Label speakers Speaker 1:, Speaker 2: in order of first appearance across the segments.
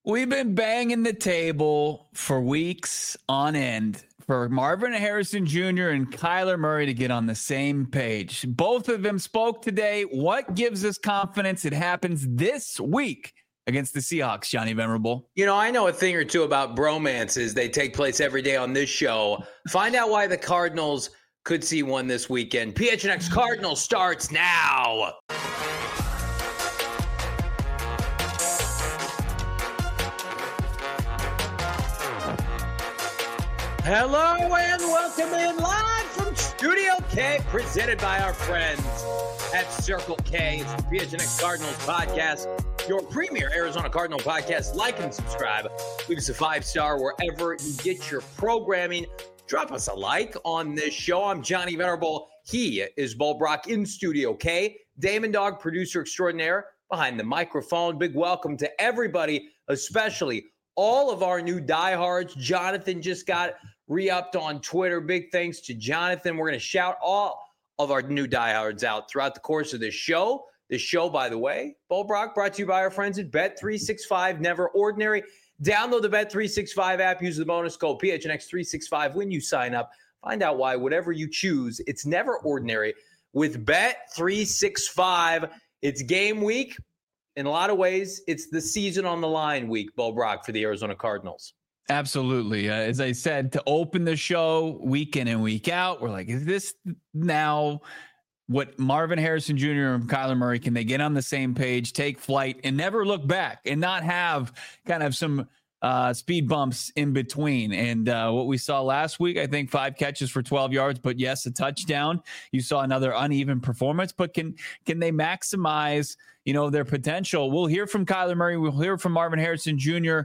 Speaker 1: We've been banging the table for weeks on end for Marvin Harrison Jr. and Kyler Murray to get on the same page. Both of them spoke today. What gives us confidence it happens this week against the Seahawks, Johnny Venerable?
Speaker 2: You know, I know a thing or two about bromances. They take place every day on this show. Find out why the Cardinals could see one this weekend. PHNX Cardinals starts now. Hello and welcome in live from Studio K, presented by our friends at Circle K. It's the PHNX Cardinals podcast, your premier Arizona Cardinal podcast. Like and subscribe. Leave us a 5-star wherever you get your programming. Drop us a like on this show. I'm Johnny Venerable. He is Bo Brock in Studio K. Damon Dog, producer extraordinaire, behind the microphone. Big welcome to everybody, especially all of our new diehards. Jonathan just got re-upped on Twitter. Big thanks to Jonathan. We're going to shout all of our new diehards out throughout the course of this show. This show, by the way, Bo Brock, brought to you by our friends at Bet365, Never Ordinary. Download the Bet365 app. Use the bonus code PHNX365 when you sign up. Find out why whatever you choose, it's never ordinary with Bet365. It's game week. In a lot of ways, it's the season on the line week, Bo Brock, for the Arizona Cardinals.
Speaker 1: Absolutely. As I said, to open the show week in and week out, we're like, is this now what Marvin Harrison Jr. and Kyler Murray, can they get on the same page, take flight, and never look back and not have kind of some speed bumps in between? And what we saw last week, I think 5 catches for 12 yards, but yes, a touchdown. You saw another uneven performance, but can they maximize their potential? We'll hear from Kyler Murray. We'll hear from Marvin Harrison Jr.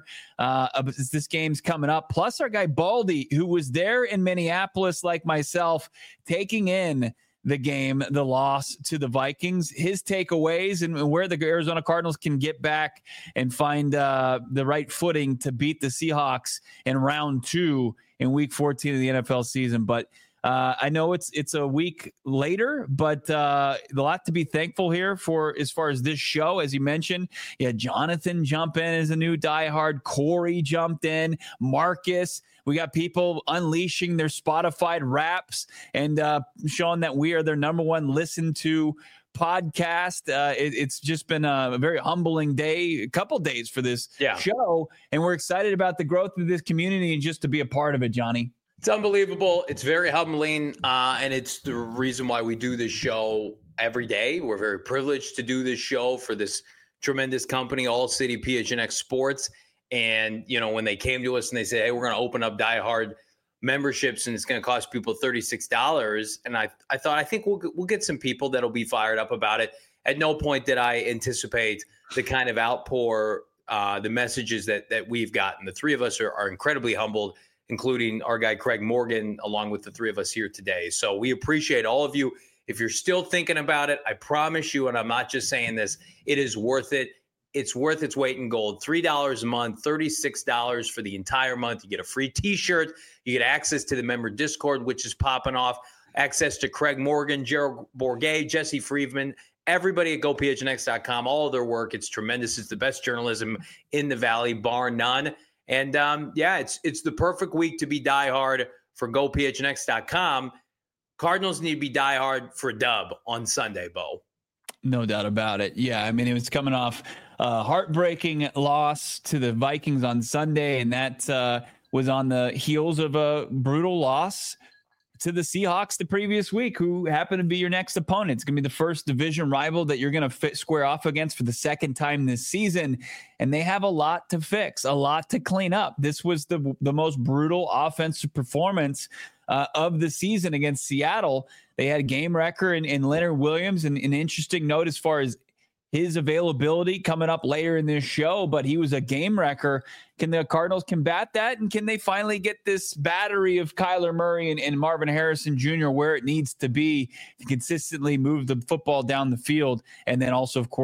Speaker 1: As this game's coming up. Plus our guy Baldy, who was there in Minneapolis like myself, taking in the game, the loss to the Vikings, his takeaways, and where the Arizona Cardinals can get back and find the right footing to beat the Seahawks in round 2 in week 14 of the NFL season. But I know it's a week later, but a lot to be thankful here for as far as this show. As you mentioned, Jonathan jump in as a new diehard. Corey jumped in. Marcus. We got people unleashing their Spotify raps and showing that we are their number one listened to podcast. It's just been a very humbling day, a couple days for this show. And we're excited about the growth of this community and just to be a part of it, Johnny.
Speaker 2: It's unbelievable. It's very humbling, and it's the reason why we do this show every day. We're very privileged to do this show for this tremendous company, All City PHNX Sports. And, when they came to us and they said, hey, we're going to open up diehard memberships and it's going to cost people $36. And I think we'll get some people that'll be fired up about it. At no point did I anticipate the kind of outpour, the messages that we've gotten. The three of us are incredibly humbled, including our guy Craig Morgan, along with the three of us here today. So we appreciate all of you. If you're still thinking about it, I promise you, and I'm not just saying this, it is worth it. It's worth its weight in gold. $3 a month, $36 for the entire month. You get a free T-shirt. You get access to the member Discord, which is popping off. Access to Craig Morgan, Gerald Bourget, Jesse Friedman, everybody at GoPHNX.com. All of their work. It's tremendous. It's the best journalism in the Valley, bar none. And, it's the perfect week to be diehard for GoPHNX.com. Cardinals need to be diehard for a dub on Sunday, Bo.
Speaker 1: No doubt about it. Yeah, I mean, it was coming off a heartbreaking loss to the Vikings on Sunday, and that was on the heels of a brutal loss to the Seahawks the previous week, who happened to be your next opponent. It's going to be the first division rival that you're going to square off against for the second time this season, and they have a lot to fix, a lot to clean up. This was the most brutal offensive performance of the season against Seattle. They had a game wrecker in Leonard Williams, and an interesting note as far as his availability coming up later in this show, but he was a game wrecker. Can the Cardinals combat that? And can they finally get this battery of Kyler Murray and Marvin Harrison Jr. where it needs to be to consistently move the football down the field? And then also, of course,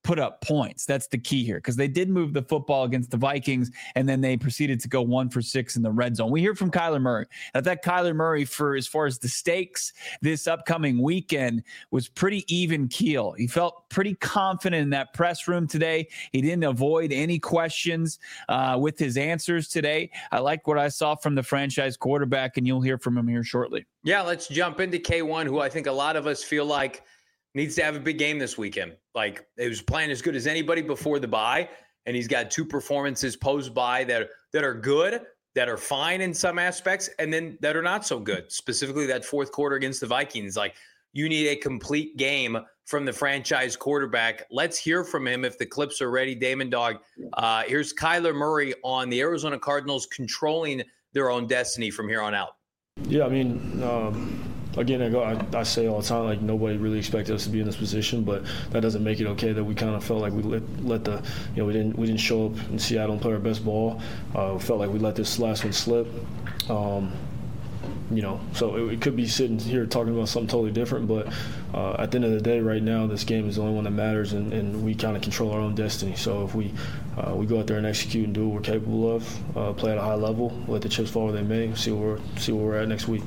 Speaker 1: put up points. That's the key here, because they did move the football against the Vikings, and then they proceeded to go 1 for 6 in the red zone. We hear from Kyler Murray. I thought Kyler Murray, for as far as the stakes this upcoming weekend, was pretty even keel. He felt pretty confident in that press room today. He didn't avoid any questions with his answers today. I like what I saw from the franchise quarterback, and you'll hear from him here shortly.
Speaker 2: Yeah, let's jump into K1, who I think a lot of us feel like needs to have a big game this weekend. Like, he was playing as good as anybody before the bye, and he's got 2 performances post-bye that are good, that are fine in some aspects, and then that are not so good. Specifically, that fourth quarter against the Vikings. Like, you need a complete game from the franchise quarterback. Let's hear from him if the clips are ready. Damon Dog, here's Kyler Murray on the Arizona Cardinals controlling their own destiny from here on out.
Speaker 3: Yeah, I mean, again, I say all the time, like, nobody really expected us to be in this position, but that doesn't make it okay that we kind of felt like we let the, you know, we didn't show up in Seattle and play our best ball. Felt like we let this last one slip. You know, so it could be sitting here talking about something totally different, but at the end of the day, right now, this game is the only one that matters, and we kind of control our own destiny. So if we go out there and execute and do what we're capable of, play at a high level, let the chips fall where they may, see where we're at next week.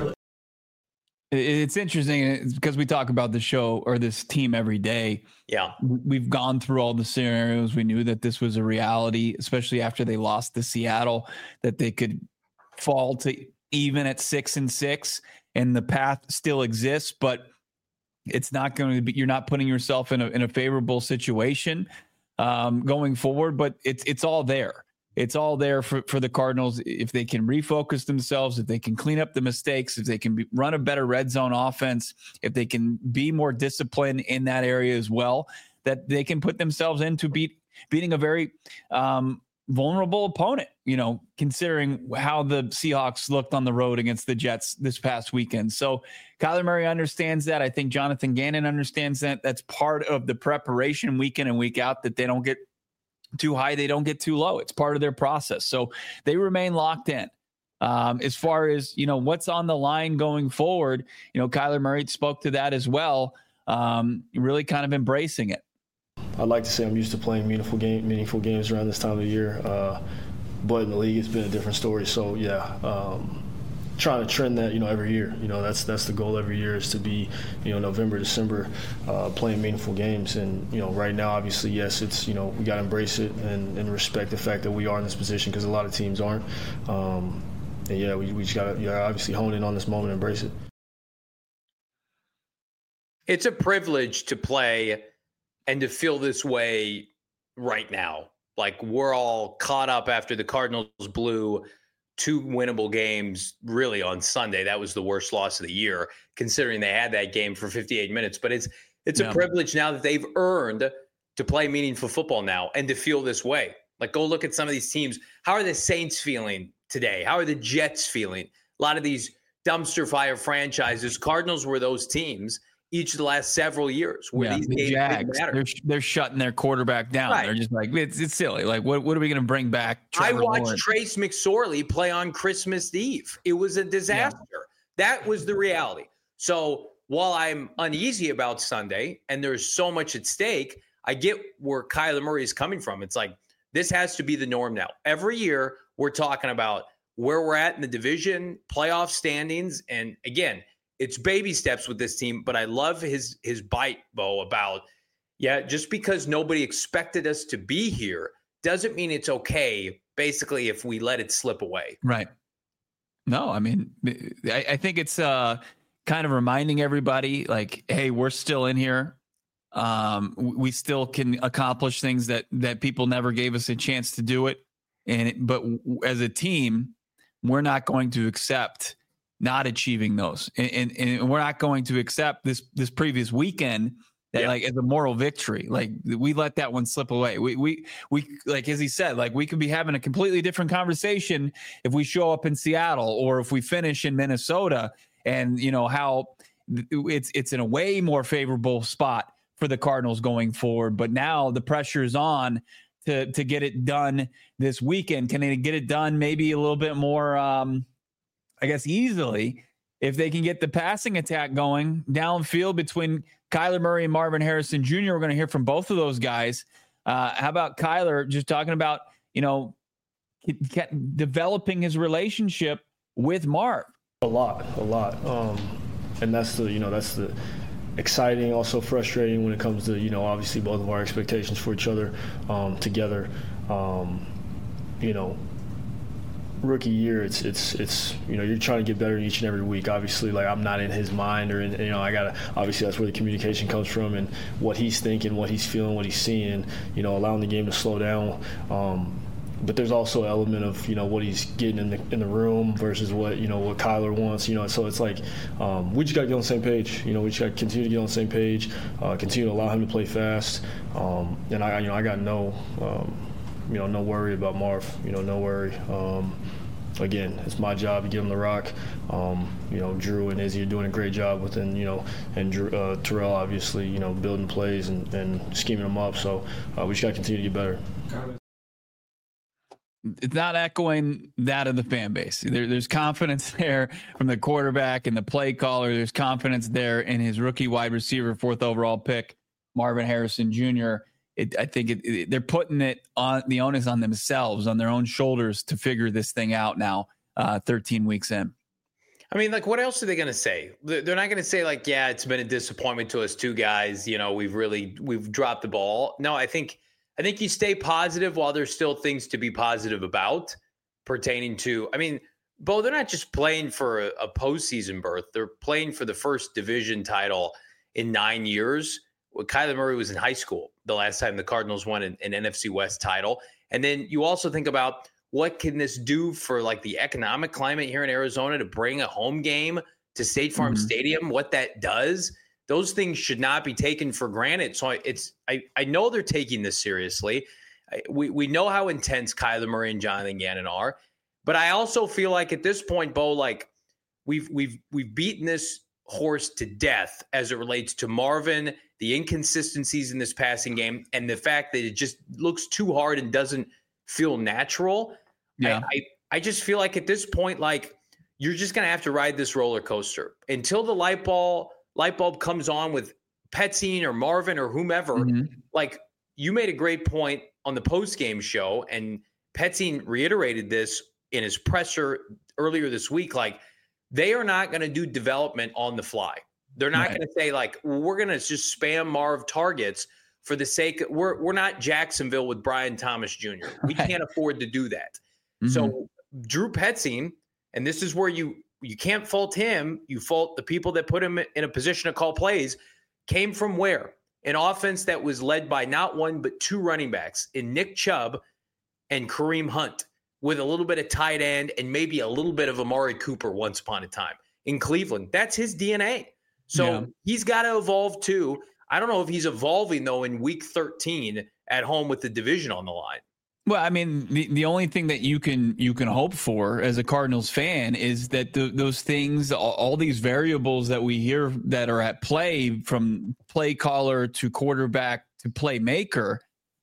Speaker 1: It's interesting because we talk about the show or this team every day.
Speaker 2: Yeah.
Speaker 1: We've gone through all the scenarios. We knew that this was a reality, especially after they lost to Seattle, that they could fall to even at 6-6, and the path still exists, but it's not going to be, you're not putting yourself in a favorable situation going forward, but it's all there. It's all there for the Cardinals. If they can refocus themselves, if they can clean up the mistakes, if they can run a better red zone offense, if they can be more disciplined in that area as well, that they can put themselves into beating a very vulnerable opponent, you know, considering how the Seahawks looked on the road against the Jets this past weekend. So Kyler Murray understands that. I think Jonathan Gannon understands that. That's part of the preparation week in and week out, that they don't get too high, they don't get too low. It's part of their process. So they remain locked in. As far as, you know, what's on the line going forward, you know, Kyler Murray spoke to that as well, really kind of embracing it.
Speaker 3: I'd like to say I'm used to playing meaningful games around this time of the year, but in the league it's been a different story. So yeah, trying to trend that, you know, every year. You know, that's the goal every year, is to be, you know, November, December, playing meaningful games. And, you know, right now, obviously, yes, it's, you know, we got to embrace it and respect the fact that we are in this position, because a lot of teams aren't. And yeah, we just got to obviously hone in on this moment and embrace it.
Speaker 2: It's a privilege to play and to feel this way right now. Like, we're all caught up after the Cardinals blew 2 winnable games really on Sunday. That was the worst loss of the year, considering they had that game for 58 minutes. But it's a privilege now that they've earned to play meaningful football now and to feel this way. Like, go look at some of these teams. How are the Saints feeling today? How are the Jets feeling? A lot of these dumpster fire franchises. Cardinals were those teams each of the last several years where these games
Speaker 1: Jags,
Speaker 2: matter.
Speaker 1: They're shutting their quarterback down. Right. They're just like, it's silly. Like, what are we going to bring back? Trevor
Speaker 2: I watched
Speaker 1: Lawrence?
Speaker 2: Trace McSorley play on Christmas Eve. It was a disaster. Yeah. That was the reality. So while I'm uneasy about Sunday and there's so much at stake, I get where Kyler Murray is coming from. It's like, this has to be the norm now. Every year we're talking about where we're at in the division, playoff standings. And again, it's baby steps with this team, but I love his bite, Bo, about, just because nobody expected us to be here doesn't mean it's okay, basically, if we let it slip away.
Speaker 1: Right. No, I mean, I think it's kind of reminding everybody, like, hey, we're still in here. We still can accomplish things that people never gave us a chance to do it. But as a team, we're not going to accept not achieving those. And we're not going to accept this previous weekend that like as a moral victory. Like, we let that one slip away. We like, as he said, like, we could be having a completely different conversation if we show up in Seattle or if we finish in Minnesota, and you know how it's in a way more favorable spot for the Cardinals going forward. But now the pressure is on to get it done this weekend. Can they get it done maybe a little bit more, I guess, easily, if they can get the passing attack going downfield between Kyler Murray and Marvin Harrison Jr. We're going to hear from both of those guys. How about Kyler just talking about, developing his relationship with Marv?
Speaker 3: A lot. And that's the exciting, also frustrating when it comes to, obviously both of our expectations for each other together. Rookie year, it's you're trying to get better each and every week. Obviously, like, I'm not in his mind, or obviously that's where the communication comes from, and what he's thinking, what he's feeling, what he's seeing, allowing the game to slow down. But there's also an element of what he's getting in the room versus what what Kyler wants. So it's like we just got to get on the same page. We just got to continue to get on the same page, continue to allow him to play fast. And I got no worry about Marv. No worry. Again, it's my job to give him the rock. Drew and Izzy are doing a great job within, and Terrell obviously, building plays and scheming them up. So we just got to continue to get better.
Speaker 1: It's not echoing that of the fan base. There's confidence there from the quarterback and the play caller. There's confidence there in his rookie wide receiver, 4th overall pick, Marvin Harrison Jr. I think they're putting it on the onus on themselves, on their own shoulders, to figure this thing out now, 13 weeks in.
Speaker 2: I mean, like, what else are they going to say? They're not going to say, like, yeah, it's been a disappointment to us two guys. We've dropped the ball. No, I think you stay positive while there's still things to be positive about pertaining to, Bo, they're not just playing for a postseason berth. They're playing for the first division title in 9 years. Well, Kyler Murray was in high school the last time the Cardinals won an NFC West title. And then you also think about, what can this do for, like, the economic climate here in Arizona to bring a home game to State Farm Stadium, what that does. Those things should not be taken for granted. So I know they're taking this seriously. We know how intense Kyler Murray and Jonathan Gannon are, but I also feel like at this point, Bo, like, we've beaten this horse to death as it relates to Marvin, the inconsistencies in this passing game, and the fact that it just looks too hard and doesn't feel natural.
Speaker 1: Yeah.
Speaker 2: I just feel like at this point, like, you're just going to have to ride this roller coaster until the light bulb comes on with Petzing or Marvin or whomever. Like, you made a great point on the post-game show, and Petzing reiterated this in his presser earlier this week. Like, they are not going to do development on the fly. They're not going to say, like, we're going to just spam Marv targets for the sake of, we're not Jacksonville with Brian Thomas Jr. We can't afford to do that. So Drew Petzing, and this is where you can't fault him. You fault the people that put him in a position to call plays. Came from where? An offense that was led by not one but two running backs in Nick Chubb and Kareem Hunt, with a little bit of tight end and maybe a little bit of Amari Cooper once upon a time in Cleveland. That's his DNA. So he's got to evolve too. I don't know if he's evolving, though, in week 13 at home with the division on the line.
Speaker 1: Well, the only thing that you can hope for as a Cardinals fan is that those things, all these variables that we hear that are at play, from play caller to quarterback to playmaker,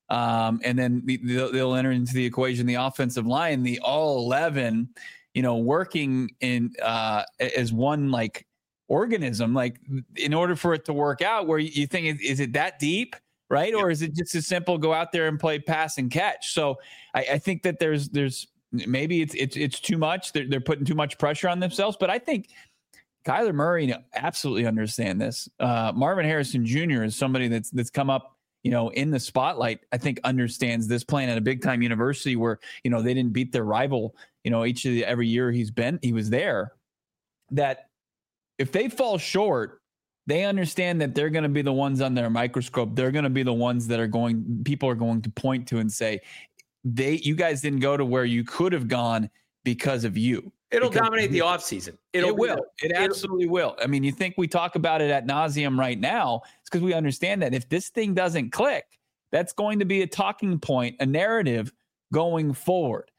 Speaker 1: and then they'll enter into the equation the offensive line, the all 11, working in as one, like, organism, like, in order for it to work out, where you think, is it that deep? Right. Or is it just as simple, go out there and play pass and catch? So I think that there's maybe it's too much. They're putting too much pressure on themselves. But I think Kyler Murray absolutely understand this. Marvin Harrison Jr. is somebody that's come up, in the spotlight. I think understands this, playing at a big time university where, they didn't beat their rival, every year he was there. That if they fall short, they understand that they're going to be the ones on their microscope. They're going to be the ones that people are going to point to and say, you guys didn't go to where you could have gone because of you.
Speaker 2: It'll dominate the offseason.
Speaker 1: It will. It absolutely will. You think we talk about it ad nauseum right now. It's because we understand that if this thing doesn't click, that's going to be a talking point, a narrative going forward.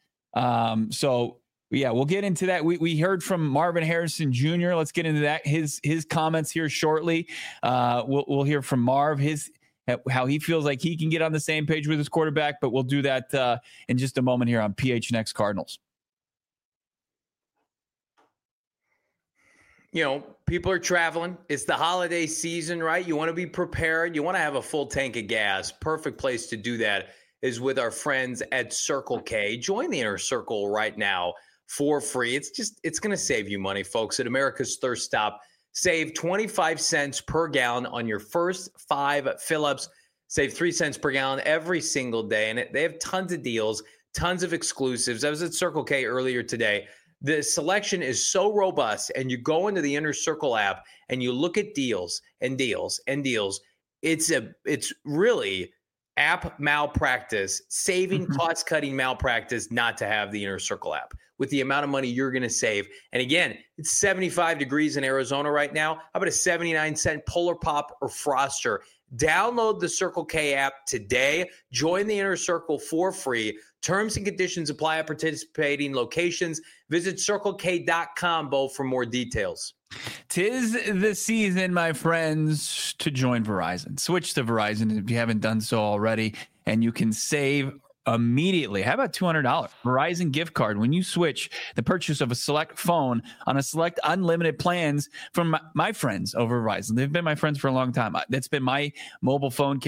Speaker 1: Yeah, we'll get into that. We heard from Marvin Harrison Jr. Let's get into that. His comments here shortly. We'll hear from Marv, how he feels like he can get on the same page with his quarterback, but we'll do that in just a moment here on PHNX Cardinals.
Speaker 2: People are traveling. It's the holiday season, right? You want to be prepared. You want to have a full tank of gas. Perfect place to do that is with our friends at Circle K. Join the Inner Circle right now for free. It's going to save you money, folks. At America's Thirst Stop, save 25 cents per gallon on your first 5 fill-ups. Save 3 cents per gallon every single day. And they have tons of deals, tons of exclusives. I was at Circle K earlier today. The selection is so robust, and you go into the Inner Circle app and you look at deals and deals and deals. It's really app malpractice, saving cost-cutting malpractice not to have the Inner Circle app with the amount of money you're going to save. And again, it's 75 degrees in Arizona right now. How about a 79-cent Polar Pop or Froster? Download the Circle K app today. Join the Inner Circle for free. Terms and conditions apply at participating locations. Visit CircleK.com, Bo, for more details.
Speaker 1: 'Tis the season, my friends, to join Verizon. Switch to Verizon if you haven't done so already, and you can save immediately. How about $200 Verizon gift card when you switch the purchase of a select phone on a select unlimited plans from my friends over Verizon? They've been my friends for a long time. That's been my mobile phone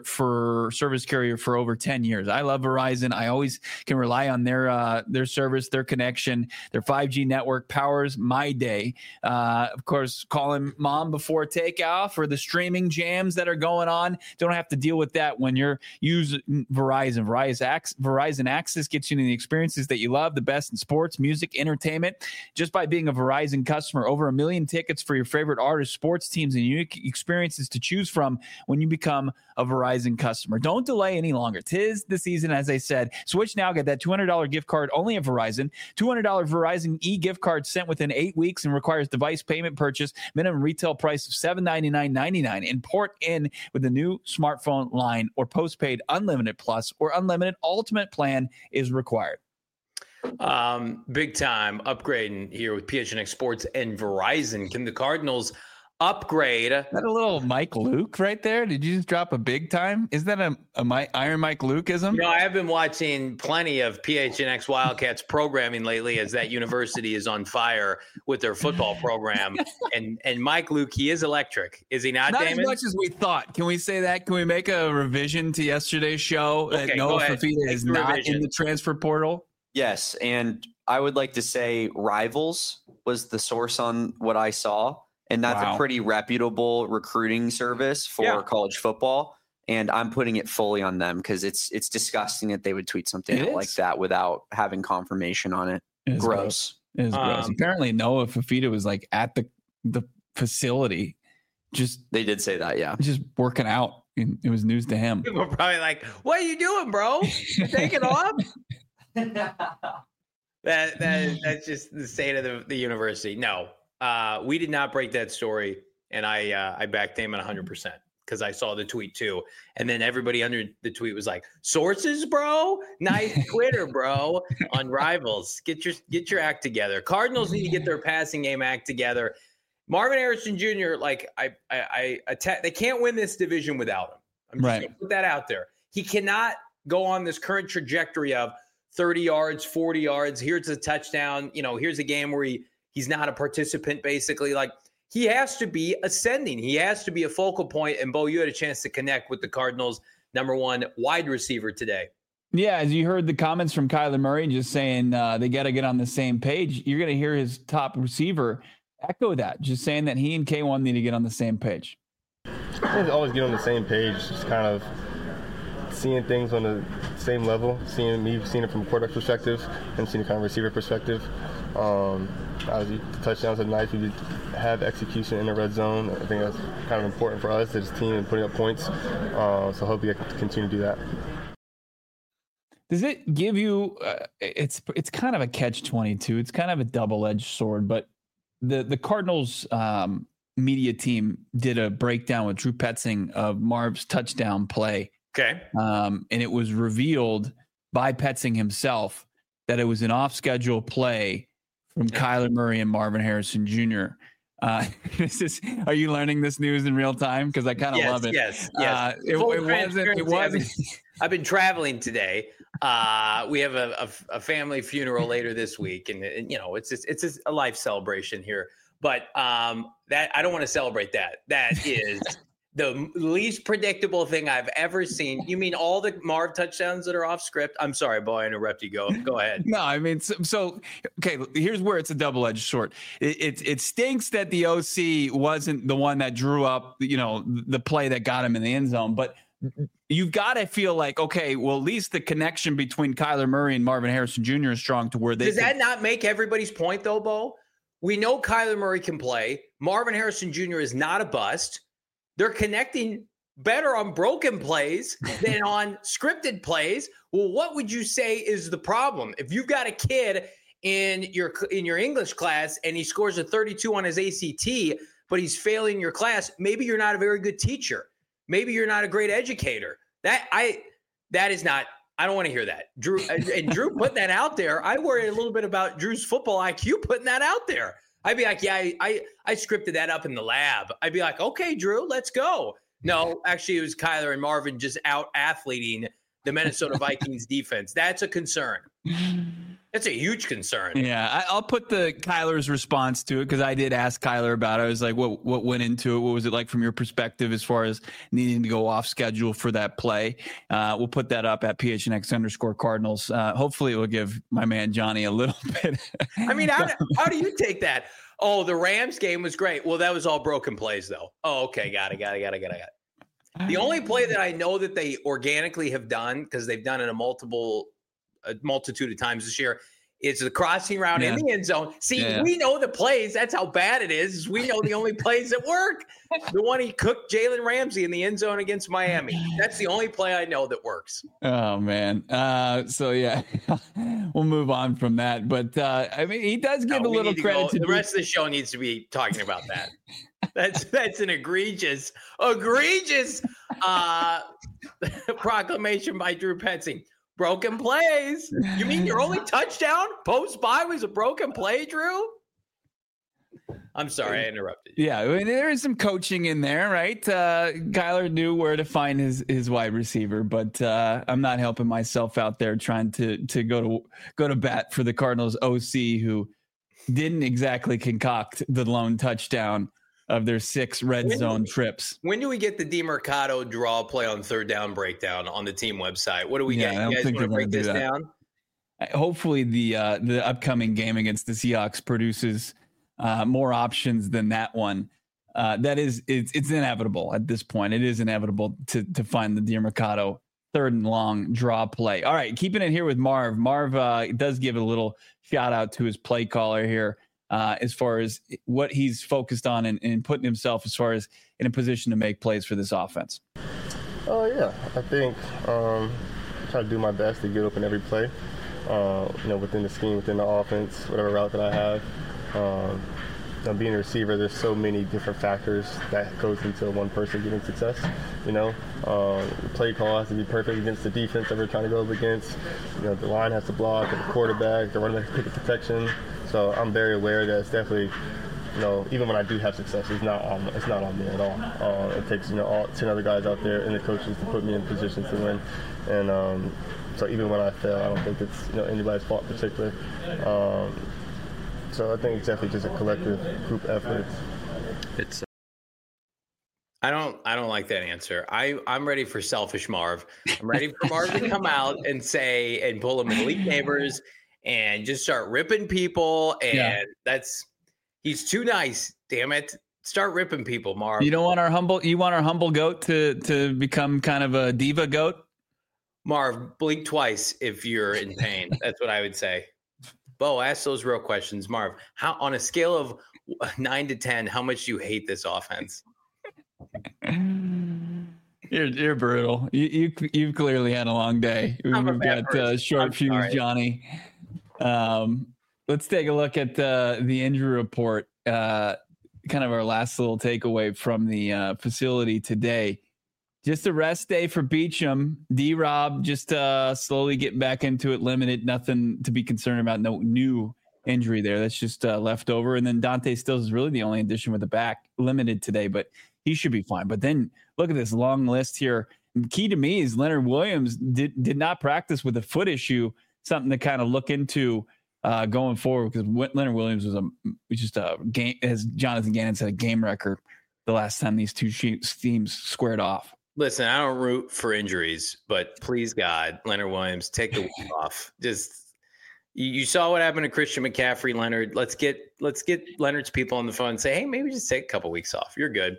Speaker 1: service carrier for over 10 years. I love Verizon. I always can rely on their service, their connection. Their 5G network powers my day. Of course, calling mom before takeoff or the streaming jams that are going on. Don't have to deal with that when you're using Verizon. Verizon Access gets you the experiences that you love, the best in sports, music, entertainment. Just by being a Verizon customer, over 1 million tickets for your favorite artists, sports teams, and unique experiences to choose from when you become a Verizon customer. Don't delay any longer. 'Tis the season, as I said. Switch now. Get that $200 gift card only at Verizon. $200 Verizon e-gift card sent within 8 weeks and requires device payment purchase. Minimum retail price of $799.99. Import in with the new smartphone line or postpaid unlimited plus or unlimited ultimate plan is required.
Speaker 2: Big time upgrading here with PHNX Sports and Verizon. Can the Cardinals upgrade?
Speaker 1: Is that a little Mike Luke right there? Did you just drop a big time? Is that a Iron Mike Luke-ism?
Speaker 2: I have been watching plenty of PHNX Wildcats programming lately as that university is on fire with their football program. and Mike Luke, he is electric. Is he not, Damon?
Speaker 1: Not as much as we thought. Can we say that? Can we make a revision to yesterday's show that Noah Fifita is not in the transfer portal?
Speaker 4: Yes, and I would like to say Rivals was the source on what I saw. And that's a pretty reputable recruiting service for college football. And I'm putting it fully on them because it's disgusting that they would tweet something like that without having confirmation on it. Gross.
Speaker 1: It is gross. Apparently Noah Fifita was like at the facility.
Speaker 2: They did say that, yeah.
Speaker 1: Just working out. And it was news to him.
Speaker 2: People were probably like, what are you doing, bro? You take it off? That's just the state of the university. No. We did not break that story, and I backed Damon 100% because I saw the tweet too. And then everybody under the tweet was like, "Sources, bro, nice Twitter, bro." On Rivals, get your act together. Cardinals need to get their passing game act together. Marvin Harrison Jr. They can't win this division without him. I'm just gonna put that out there. He cannot go on this current trajectory of 30 yards, 40 yards. Here's a touchdown. Here's a game where he's not a participant, basically. Like, he has to be ascending. He has to be a focal point. And, Bo, you had a chance to connect with the Cardinals' #1 wide receiver today.
Speaker 1: Yeah, as you heard the comments from Kyler Murray just saying they got to get on the same page, you're going to hear his top receiver echo that, just saying that he and K1 need to get on the same page.
Speaker 5: Always get on the same page, just kind of seeing things on the same level, seeing it from a quarterback perspective and seeing it kind of receiver perspective. Obviously, the touchdowns are nice. We have execution in the red zone. I think that's kind of important for us as a team and putting up points. So hopefully I can continue to do that.
Speaker 1: Does it give you it's kind of a catch-22. It's kind of a double-edged sword, but the Cardinals media team did a breakdown with Drew Petzing of Marv's touchdown play.
Speaker 2: Okay.
Speaker 1: And it was revealed by Petzing himself that it was an off-schedule play from Kyler Murray and Marvin Harrison Jr. Are you learning this news in real time? Because I kind of love it.
Speaker 2: Yes.
Speaker 1: It wasn't.
Speaker 2: I've been traveling today. We have a family funeral later this week, and it's a life celebration here. But that I don't want to celebrate that. That is the least predictable thing I've ever seen. You mean all the Marv touchdowns that are off script? I'm sorry, Bo, I interrupted you. Go ahead.
Speaker 1: No, I mean, so okay, here's where it's a double-edged sword. It stinks that the OC wasn't the one that drew up, the play that got him in the end zone. But you've got to feel like, okay, well, at least the connection between Kyler Murray and Marvin Harrison Jr. is strong to where they
Speaker 2: Does that not make everybody's point, though, Bo? We know Kyler Murray can play. Marvin Harrison Jr. is not a bust. They're connecting better on broken plays than on scripted plays. Well, what would you say is the problem? If you've got a kid in your English class and he scores a 32 on his ACT, but he's failing your class, maybe you're not a very good teacher. Maybe you're not a great educator. I don't want to hear that. Drew putting that out there. I worry a little bit about Drew's football IQ putting that out there. I'd be like, yeah, I scripted that up in the lab. I'd be like, okay, Drew, let's go. No, actually, it was Kyler and Marvin just out-athleting the Minnesota Vikings defense. That's a concern. That's a huge concern.
Speaker 1: Yeah, I'll put the Kyler's response to it because I did ask Kyler about it. I was like, what went into it? What was it like from your perspective as far as needing to go off schedule for that play? We'll put that up at PHNX_Cardinals. Hopefully it will give my man Johnny a little bit.
Speaker 2: I mean, how do you take that? Oh, the Rams game was great. Well, that was all broken plays, though. Oh, okay. Got it. The only play that I know that they organically have done, because they've done it a multitude of times this year, is the crossing route in the end zone. See, we know the plays. That's how bad it is. We know the only plays that work. The one he cooked Jalen Ramsey in the end zone against Miami. That's the only play I know that works.
Speaker 1: Oh, man. So, yeah, we'll move on from that. But, I mean, he does give a little credit to
Speaker 2: the rest of the show needs to be talking about that. That's an egregious proclamation by Drew Petzing. Broken plays. You mean your only touchdown post-bye was a broken play, Drew? I'm sorry, I interrupted you.
Speaker 1: Yeah, I mean, there is some coaching in there, right? Kyler knew where to find his wide receiver, but I'm not helping myself out there trying to go to bat for the Cardinals OC, who didn't exactly concoct the lone touchdown of their 6 red zone trips.
Speaker 2: When do we get the DeMercado draw play on third down breakdown on the team website? What do we get? You guys want to break this down?
Speaker 1: Hopefully the upcoming game against the Seahawks produces more options than that one. It's inevitable at this point. It is inevitable to find the DeMercado third and long draw play. All right, keeping it here with Marv. Marv does give a little shout out to his play caller here. As far as what he's focused on and putting himself as far as in a position to make plays for this offense.
Speaker 5: Oh, yeah. I think I try to do my best to get open every play, within the scheme, within the offense, whatever route that I have. Being a receiver, there's so many different factors that goes into one person getting success. The play call has to be perfect against the defense that we're trying to go up against. The line has to block, the quarterback, the running back pick protection. So I'm very aware that it's definitely, even when I do have success, it's not on me at all. It takes, all 10 other guys out there and the coaches to put me in position to win. And so even when I fail, I don't think it's anybody's fault in particular. So I think it's definitely just a collective group effort.
Speaker 2: I don't like that answer. I'm ready for selfish Marv. I'm ready for Marv to come out and say and pull him in Elite Neighbors and just start ripping people. And he's too nice. Damn it. Start ripping people, Marv.
Speaker 1: You want our humble goat to become kind of a diva goat?
Speaker 2: Marv, blink twice if you're in pain. That's what I would say. Bo, ask those real questions. Marv, how on a scale of 9 to 10, how much do you hate this offense?
Speaker 1: You're brutal. You've clearly had a long day. We've got short fuse, Johnny. Let's take a look at the injury report. Kind of our last little takeaway from the facility today. Just a rest day for Beachum. D-Rob just slowly getting back into it, limited. Nothing to be concerned about. No new injury there. That's just left over. And then Dante Stills is really the only addition with the back, limited today, but he should be fine. But then look at this long list here. Key to me is Leonard Williams did not practice with a foot issue, something to kind of look into going forward, because Leonard Williams was just a game, as Jonathan Gannon said, a game record the last time these two teams squared off.
Speaker 2: Listen, I don't root for injuries, but please God, Leonard Williams, take the week off. Just you saw what happened to Christian McCaffrey, Leonard. Let's get Leonard's people on the phone and say, hey, maybe just take a couple weeks off. You're good.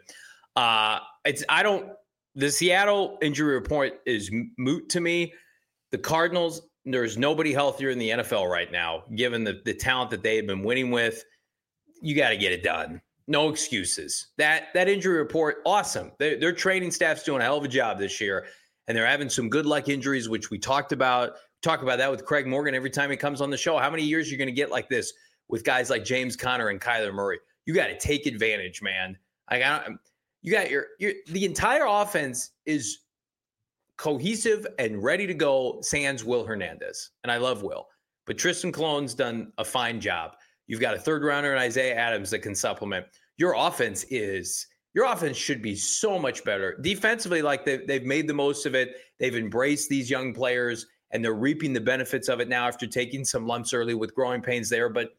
Speaker 2: The Seattle injury report is moot to me. The Cardinals, there's nobody healthier in the NFL right now, given the talent that they have been winning with. You got to get it done. No excuses. That injury report, awesome. Their training staff's doing a hell of a job this year, and they're having some good luck injuries, which we talked about. Talk about that with Craig Morgan every time he comes on the show. How many years are you going to get like this with guys like James Conner and Kyler Murray? You got to take advantage, man. You got the entire offense is cohesive and ready to go, sans Will Hernandez. And I love Will. But Tristan Cologne's done a fine job. You've got a third rounder in Isaiah Adams that can supplement. Your offense should be so much better. Defensively, like they've made the most of it. They've embraced these young players, and they're reaping the benefits of it now after taking some lumps early with growing pains there. But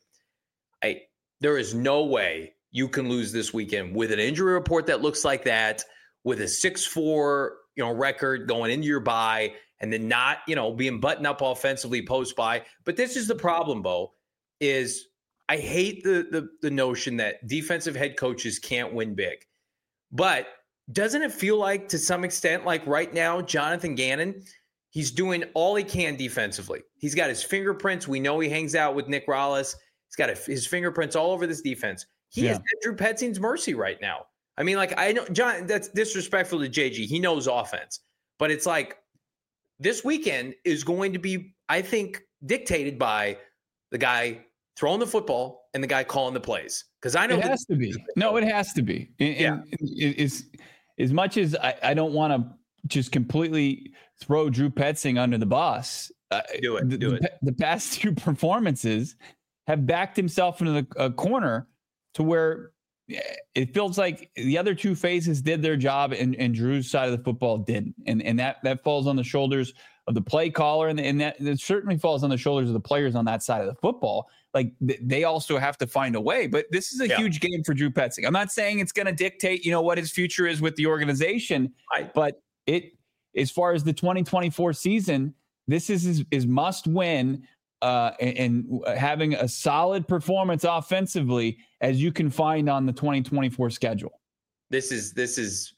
Speaker 2: there is no way you can lose this weekend with an injury report that looks like that, with a 6-4 record going into your bye, and then not being buttoned up offensively post bye. But this is the problem, Bo, is I hate the notion that defensive head coaches can't win big. But doesn't it feel like, to some extent, like right now, Jonathan Gannon, he's doing all he can defensively. He's got his fingerprints. We know he hangs out with Nick Rallis. He's got his fingerprints all over this defense. He is at Drew Petzing's mercy right now. I mean, like, I know, John, that's disrespectful to JG. He knows offense. But it's like this weekend is going to be, I think, dictated by the guy throwing the football and the guy calling the plays. Because I know
Speaker 1: it has to be. No, it has to be. And it's, as much as I don't want to just completely throw Drew Petzing under the bus, the past two performances have backed himself into a corner to where it feels like the other two phases did their job and Drew's side of the football didn't. And that falls on the shoulders of the play caller, and that certainly falls on the shoulders of the players on that side of the football. Like, they also have to find a way. But this is a huge game for Drew Petzing. I'm not saying it's going to dictate, what his future is with the organization, but as far as the 2024 season, this is his must win. And having a solid performance offensively as you can find on the 2024 schedule.
Speaker 2: This is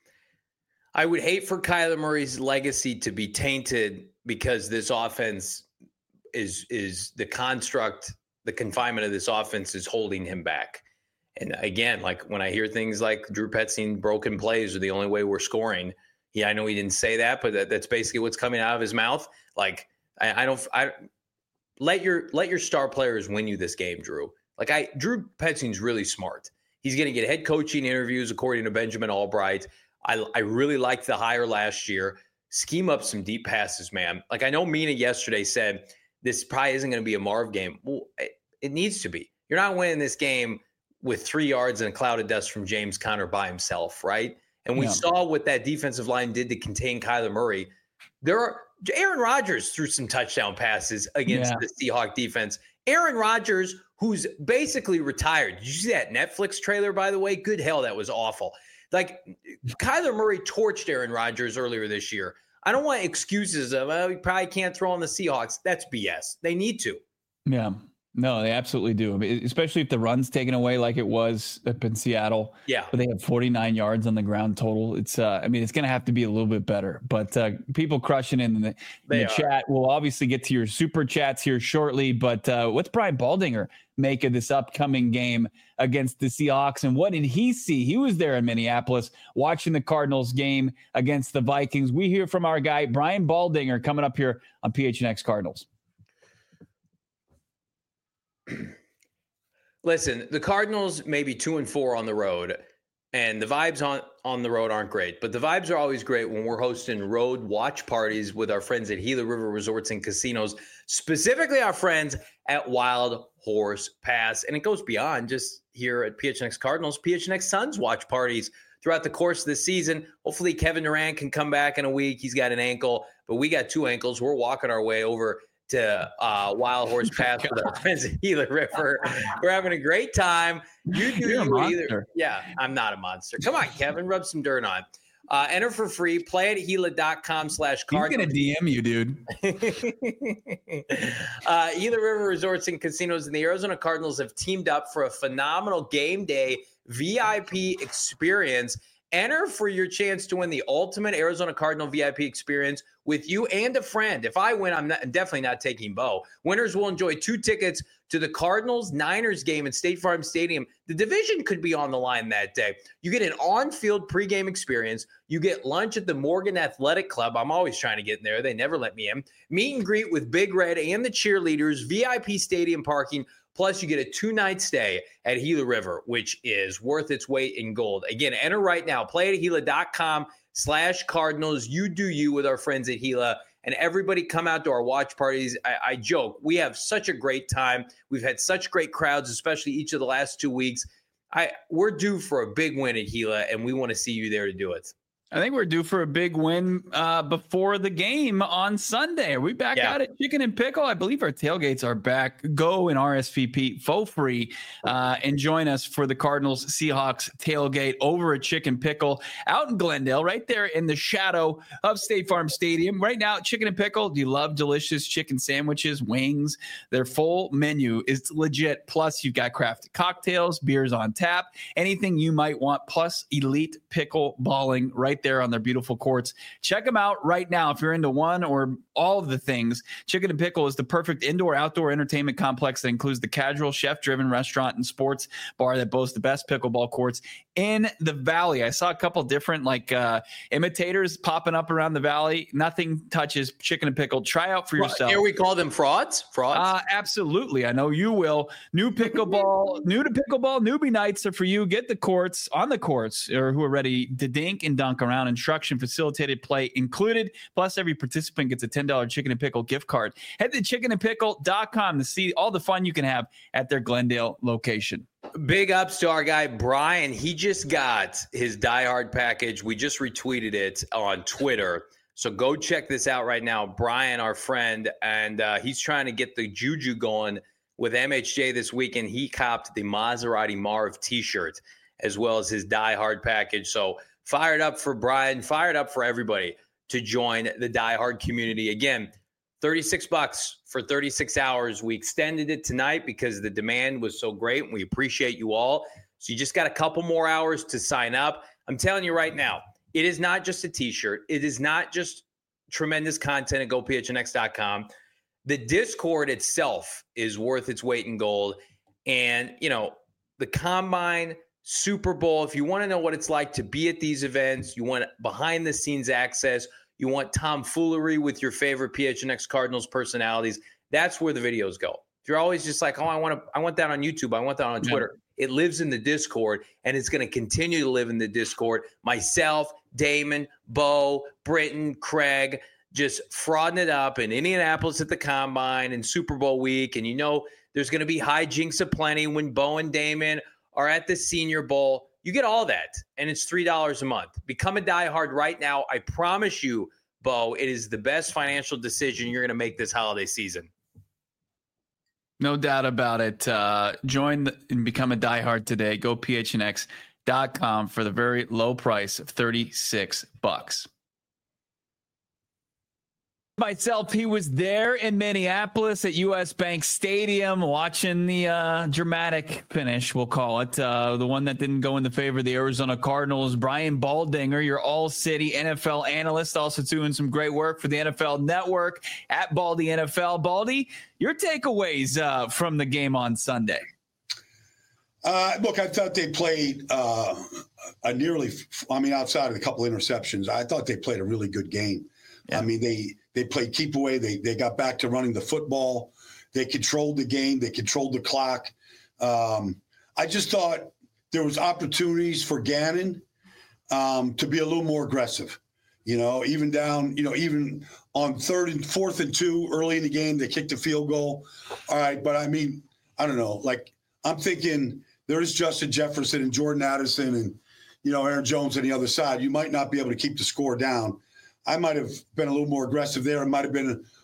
Speaker 2: I would hate for Kyler Murray's legacy to be tainted because this offense is the construct, the confinement of this offense is holding him back. And again, like when I hear things like Drew Petzing broken plays are the only way we're scoring. Yeah, I know he didn't say that, but that's basically what's coming out of his mouth. Like I let your star players win you this game, Drew. Like Drew Petzing's really smart. He's going to get head coaching interviews, according to Benjamin Albright. I really liked the hire last year. Scheme up some deep passes, man. Like, I know Mina yesterday said this probably isn't going to be a Marv game. Well, it needs to be. You're not winning this game with 3 yards and a cloud of dust from James Conner by himself, right? And we saw what that defensive line did to contain Kyler Murray. Aaron Rodgers threw some touchdown passes against the Seahawks defense. Aaron Rodgers, who's basically retired. Did you see that Netflix trailer, by the way? Good hell, that was awful. Like, Kyler Murray torched Aaron Rodgers earlier this year. I don't want excuses of, he probably can't throw on the Seahawks. That's BS. They need to.
Speaker 1: Yeah. No, they absolutely do. I mean, especially if the run's taken away like it was up in Seattle.
Speaker 2: Yeah.
Speaker 1: But they have 49 yards on the ground total. It's it's going to have to be a little bit better. But people crushing in the chat. We'll obviously get to your super chats here shortly. But what's Brian Baldinger make of this upcoming game against the Seahawks? And what did he see? He was there in Minneapolis watching the Cardinals game against the Vikings. We hear from our guy, Brian Baldinger, coming up here on PHNX Cardinals.
Speaker 2: Listen, the Cardinals may be 2-4 on the road, and the vibes on the road aren't great. But the vibes are always great when we're hosting road watch parties with our friends at Gila River Resorts and Casinos, specifically our friends at Wild Horse Pass. And it goes beyond just here at PHNX Cardinals. PHNX Suns watch parties throughout the course of the season. Hopefully Kevin Durant can come back in a week. He's got an ankle, but we got 2 ankles. We're walking our way over to Wild Horse Pass with our friends at Gila River. We're having a great time. You're a monster. Yeah, I'm not a monster. Come on, Kevin, rub some dirt on. Enter for free. Play at Gila.com/Cardinals.
Speaker 1: He's going to DM you, dude.
Speaker 2: Gila River Resorts and Casinos and the Arizona Cardinals have teamed up for a phenomenal game day VIP experience. Enter for your chance to win the ultimate Arizona Cardinal VIP experience with you and a friend. If I win, I'm definitely not taking Bo. Winners will enjoy 2 tickets to the Cardinals-Niners game at State Farm Stadium. The division could be on the line that day. You get an on-field pregame experience. You get lunch at the Morgan Athletic Club. I'm always trying to get in there. They never let me in. Meet and greet with Big Red and the cheerleaders, VIP stadium parking. Plus, you get a 2-night stay at Gila River, which is worth its weight in gold. Again, enter right now. Play at Gila.com/Cardinals. You do you with our friends at Gila. And everybody come out to our watch parties. I joke. We have such a great time. We've had such great crowds, especially each of the last 2 weeks. We're due for a big win at Gila, and we want to see you there to do it.
Speaker 1: I think we're due for a big win before the game on Sunday. Are we back out at Chicken and Pickle? I believe our tailgates are back. Go and RSVP for free and join us for the Cardinals Seahawks tailgate over at Chicken Pickle out in Glendale, right there in the shadow of State Farm Stadium. Right now, Chicken and Pickle, do you love delicious chicken sandwiches, wings? Their full menu is legit. Plus, you've got crafted cocktails, beers on tap, anything you might want, plus elite pickle balling right there on their beautiful courts. Check them out right now if you're into one or all of the things. Chicken and Pickle is the perfect indoor-outdoor entertainment complex that includes the casual, chef-driven restaurant and sports bar that boasts the best pickleball courts in the Valley. I saw a couple different imitators popping up around the Valley. Nothing touches Chicken and Pickle. Try out for yourself.
Speaker 2: Here we call them frauds?
Speaker 1: Absolutely. I know you will. New to pickleball, newbie nights are for you. Get the courts on the courts or who are ready to dink and dunk around. Instruction, facilitated play included. Plus, every participant gets a $10 Chicken and Pickle gift card. Head to chickenandpickle.com to see all the fun you can have at their Glendale location.
Speaker 2: Big ups to our guy, Brian. He just got his Die Hard package. We just retweeted it on Twitter. So go check this out right now. Brian, our friend, and he's trying to get the juju going with MHJ this weekend. He copped the Maserati Marv t-shirt as well as his Die Hard package. So fired up for Brian, fired up for everybody to join the Die Hard community. Again, $36 for 36 hours. We extended it tonight because the demand was so great, and we appreciate you all. So you just got a couple more hours to sign up. I'm telling you right now, it is not just a t-shirt. It is not just tremendous content at GoPHNX.com. The Discord itself is worth its weight in gold. And, the Combine, Super Bowl, if you want to know what it's like to be at these events, you want behind-the-scenes access, you want tomfoolery with your favorite PHNX Cardinals personalities, that's where the videos go. If you're always just like, I want that on YouTube, I want that on Twitter, it lives in the Discord, and it's going to continue to live in the Discord. Myself, Damon, Bo, Britton, Craig, just frauding it up in Indianapolis at the Combine and Super Bowl week. And there's going to be hijinks aplenty when Bo and Damon are at the Senior Bowl. You get all that, and it's $3 a month. Become a diehard right now. I promise you, Bo, it is the best financial decision you're going to make this holiday season.
Speaker 1: No doubt about it. Join and become a diehard today. Go PHNX.com for the very low price of $36. Myself, he was there in Minneapolis at US Bank Stadium watching the dramatic finish, we'll call it, the one that didn't go in the favor of the Arizona Cardinals. Brian Baldinger, your all-city NFL analyst, also doing some great work for the NFL Network at Baldy NFL. Baldy, your takeaways from the game on Sunday.
Speaker 6: Look, I thought they played outside of a couple interceptions, I thought they played a really good game. Yeah. I mean, they played keep away. They got back to running the football. They controlled the game. They controlled the clock. I just thought there was opportunities for Gannon to be a little more aggressive. Even down, even on 3rd and 4th and 2 early in the game, they kicked a field goal. All right, but I mean, I don't know. Like, I'm thinking there's Justin Jefferson and Jordan Addison and Aaron Jones on the other side. You might not be able to keep the score down. I might have been a little more aggressive there. It might have been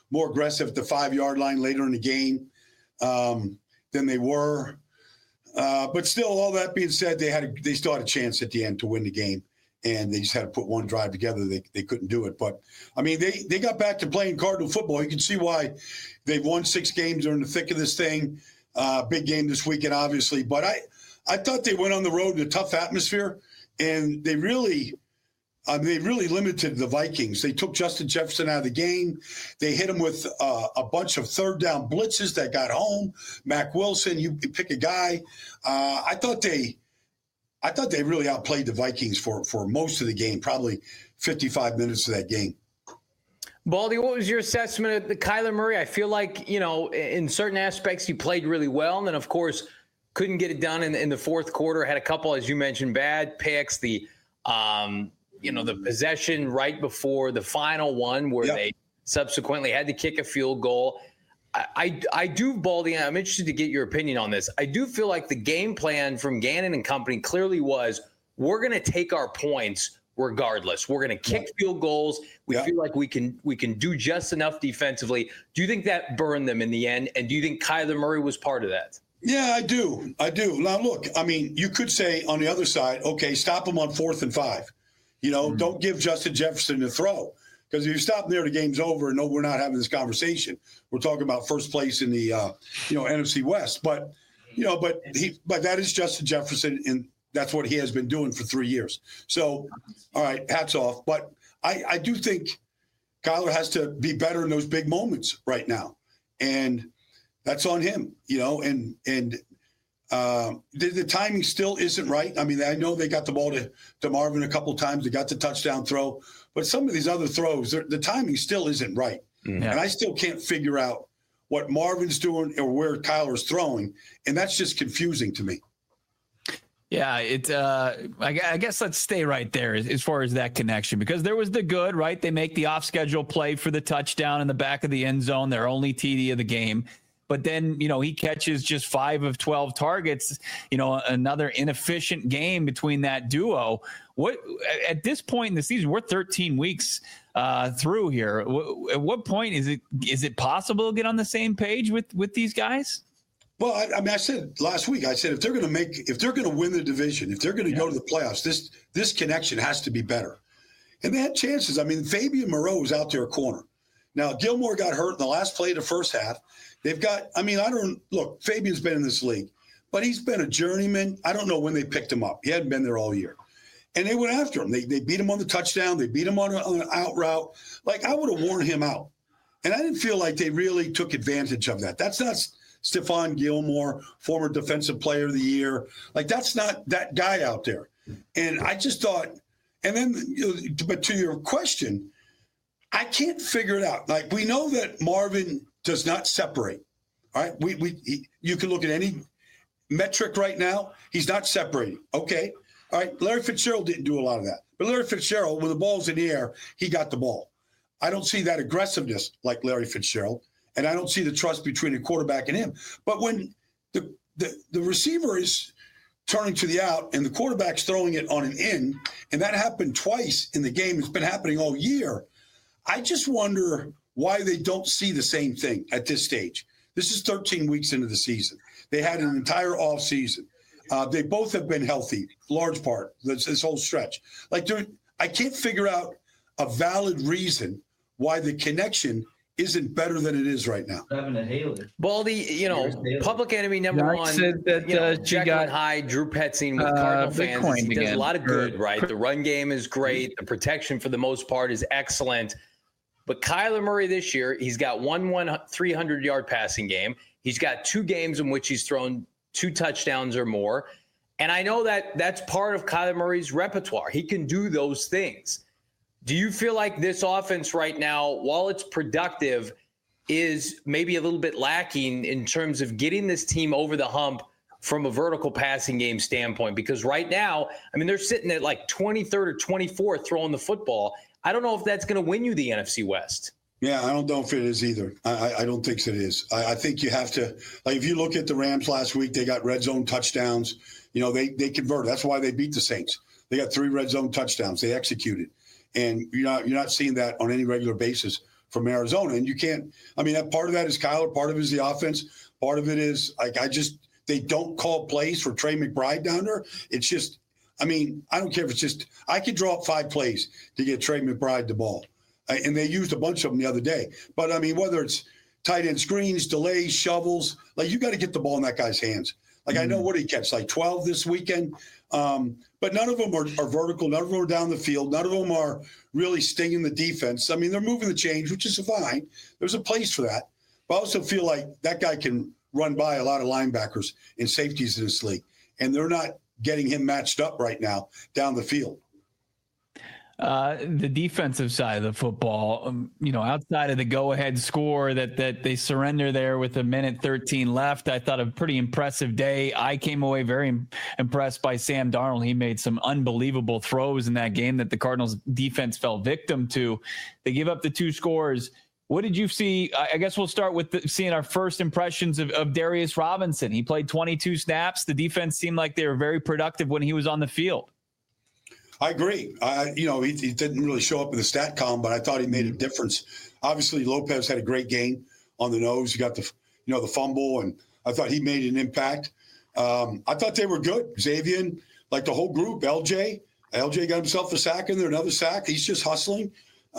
Speaker 6: more aggressive at the 5-yard line later in the game than they were. But still, all that being said, they still had a chance at the end to win the game, and they just had to put one drive together. They couldn't do it. But, I mean, they got back to playing Cardinal football. You can see why they've won 6 games. They're in the thick of this thing. Big game this weekend, obviously. But I thought they went on the road in a tough atmosphere, and they really limited the Vikings. They took Justin Jefferson out of the game. They hit him with a bunch of third down blitzes that got home. Mac Wilson, you pick a guy. I thought they really outplayed the Vikings for most of the game, probably 55 minutes of that game.
Speaker 2: Baldy, what was your assessment of the Kyler Murray? I feel like, in certain aspects, he played really well. And then, of course, couldn't get it done in the fourth quarter. Had a couple, as you mentioned, bad picks. The possession right before the final one where they subsequently had to kick a field goal. I do, Baldy, I'm interested to get your opinion on this. I do feel like the game plan from Gannon and company clearly was, we're going to take our points regardless. We're going to kick field goals. We feel like we can do just enough defensively. Do you think that burned them in the end? And do you think Kyler Murray was part of that?
Speaker 6: Yeah, I do. Now, look, I mean, you could say on the other side, okay, stop him on 4th and 5. Don't give Justin Jefferson the throw. Because if you stop there, the game's over. And no, we're not having this conversation. We're talking about first place in the, NFC West. But that is Justin Jefferson, and that's what he has been doing for 3 years. So, all right, hats off. But I do think Kyler has to be better in those big moments right now. And that's on him, and the timing still isn't right. I mean, I know they got the ball to Marvin a couple of times. They got the touchdown throw. But some of these other throws, the timing still isn't right. Mm-hmm. And I still can't figure out what Marvin's doing or where Kyler's throwing. And that's just confusing to me.
Speaker 1: Yeah, I guess let's stay right there as far as that connection, because there was the good, right? They make the off-schedule play for the touchdown in the back of the end zone, their only TD of the game. But then, he catches just 5 of 12 targets, another inefficient game between that duo. What at this point in the season, we're 13 weeks through here. At what point is it possible to get on the same page with these guys?
Speaker 6: Well, I said last week, if they're going to win the division, if they're going to go to the playoffs, this connection has to be better. And they had chances. I mean, Fabian Moreau was out there a corner. Now, Gilmore got hurt in the last play of the first half. They've got, Fabian's been in this league, but he's been a journeyman. I don't know when they picked him up. He hadn't been there all year. And they went after him. They beat him on the touchdown. They beat him on an out route. Like, I would have worn him out. And I didn't feel like they really took advantage of that. That's not Stephon Gilmore, former defensive player of the year. Like, that's not that guy out there. And I just thought, and then, but to your question, I can't figure it out. Like, we know that Marvin does not separate. All right. You can look at any metric right now. He's not separating. Okay. All right. Larry Fitzgerald didn't do a lot of that. But Larry Fitzgerald, when the ball's in the air, he got the ball. I don't see that aggressiveness like Larry Fitzgerald. And I don't see the trust between the quarterback and him. But when the receiver is turning to the out and the quarterback's throwing it on an in, and that happened twice in the game, it's been happening all year, I just wonder why they don't see the same thing at this stage. This is 13 weeks into the season. They had an entire off season. They both have been healthy, large part, this whole stretch. Like, I can't figure out a valid reason why the connection isn't better than it is right now.
Speaker 7: Having a Haley.
Speaker 2: Baldy, public enemy number one.
Speaker 1: Said that
Speaker 2: Jekyll Hyde, Drew Petzing with Cardinal fans. He does a lot of good, right? The run game is great. The protection for the most part is excellent. But Kyler Murray this year, he's got one 300-yard passing game. He's got 2 games in which he's thrown 2 touchdowns or more. And I know that that's part of Kyler Murray's repertoire. He can do those things. Do you feel like this offense right now, while it's productive, is maybe a little bit lacking in terms of getting this team over the hump from a vertical passing game standpoint? Because right now, they're sitting at like 23rd or 24th throwing the football. I don't know if that's going to win you the NFC West.
Speaker 6: Yeah, I don't know if it is either. I don't think it is. I think you have to, like, if you look at the Rams last week, they got red zone touchdowns. They converted. That's why they beat the Saints. They got 3 red zone touchdowns. They executed. And you're not seeing that on any regular basis from Arizona. And you can't, I mean, that part of that is Kyler, part of it is the offense, part of it is like, they don't call plays for Trey McBride down there. It's just, I mean, I don't care if it's just, I could draw up 5 plays to get Trey McBride the ball. And they used a bunch of them the other day. But I mean, whether it's tight end screens, delays, shovels, like you got to get the ball in that guy's hands. Like I know what he catch, like 12 this weekend. But none of them are vertical. None of them are down the field. None of them are really stinging the defense. I mean, they're moving the chains, which is fine. There's a place for that. But I also feel like that guy can run by a lot of linebackers and safeties in this league. And they're not getting him matched up right now down the field.
Speaker 1: The defensive side of the football, outside of the go-ahead score that they surrender there with 1:13 left, I thought a pretty impressive day. I came away very impressed by Sam Darnold. He made some unbelievable throws in that game that the Cardinals defense fell victim to. They give up the 2 scores. What did you see? I guess we'll start with seeing our first impressions of Darius Robinson. He played 22 snaps. The defense seemed like they were very productive when he was on the field.
Speaker 6: I agree. He didn't really show up in the stat column, but I thought he made a difference. Obviously, Lopez had a great game on the nose. He got the fumble, and I thought he made an impact. I thought they were good. Xavier, like the whole group, LJ got himself a sack in there, another sack. He's just hustling.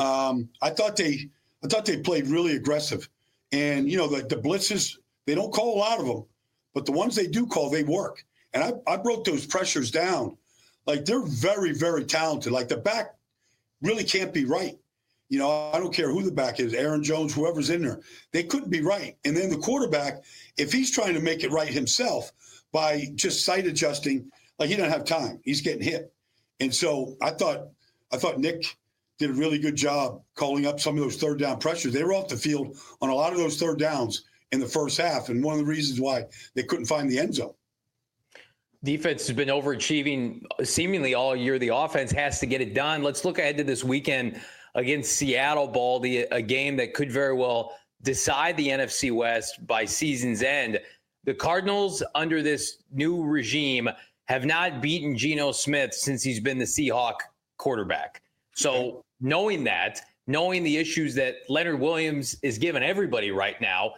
Speaker 6: I thought they played really aggressive. And, the blitzes, they don't call a lot of them, but the ones they do call, they work. And I broke those pressures down. Like, they're very, very talented. Like, the back really can't be right. I don't care who the back is, Aaron Jones, whoever's in there. They couldn't be right. And then the quarterback, if he's trying to make it right himself by just sight adjusting, like, he doesn't have time. He's getting hit. And so I thought Nick did a really good job calling up some of those third down pressures. They were off the field on a lot of those third downs in the first half, and one of the reasons why they couldn't find the end zone.
Speaker 2: Defense has been overachieving seemingly all year. The offense has to get it done. Let's look ahead to this weekend against Seattle, Baldy, a game that could very well decide the NFC West by season's end. The Cardinals, under this new regime, have not beaten Geno Smith since he's been the Seahawk quarterback. So knowing the issues that Leonard Williams is giving everybody right now,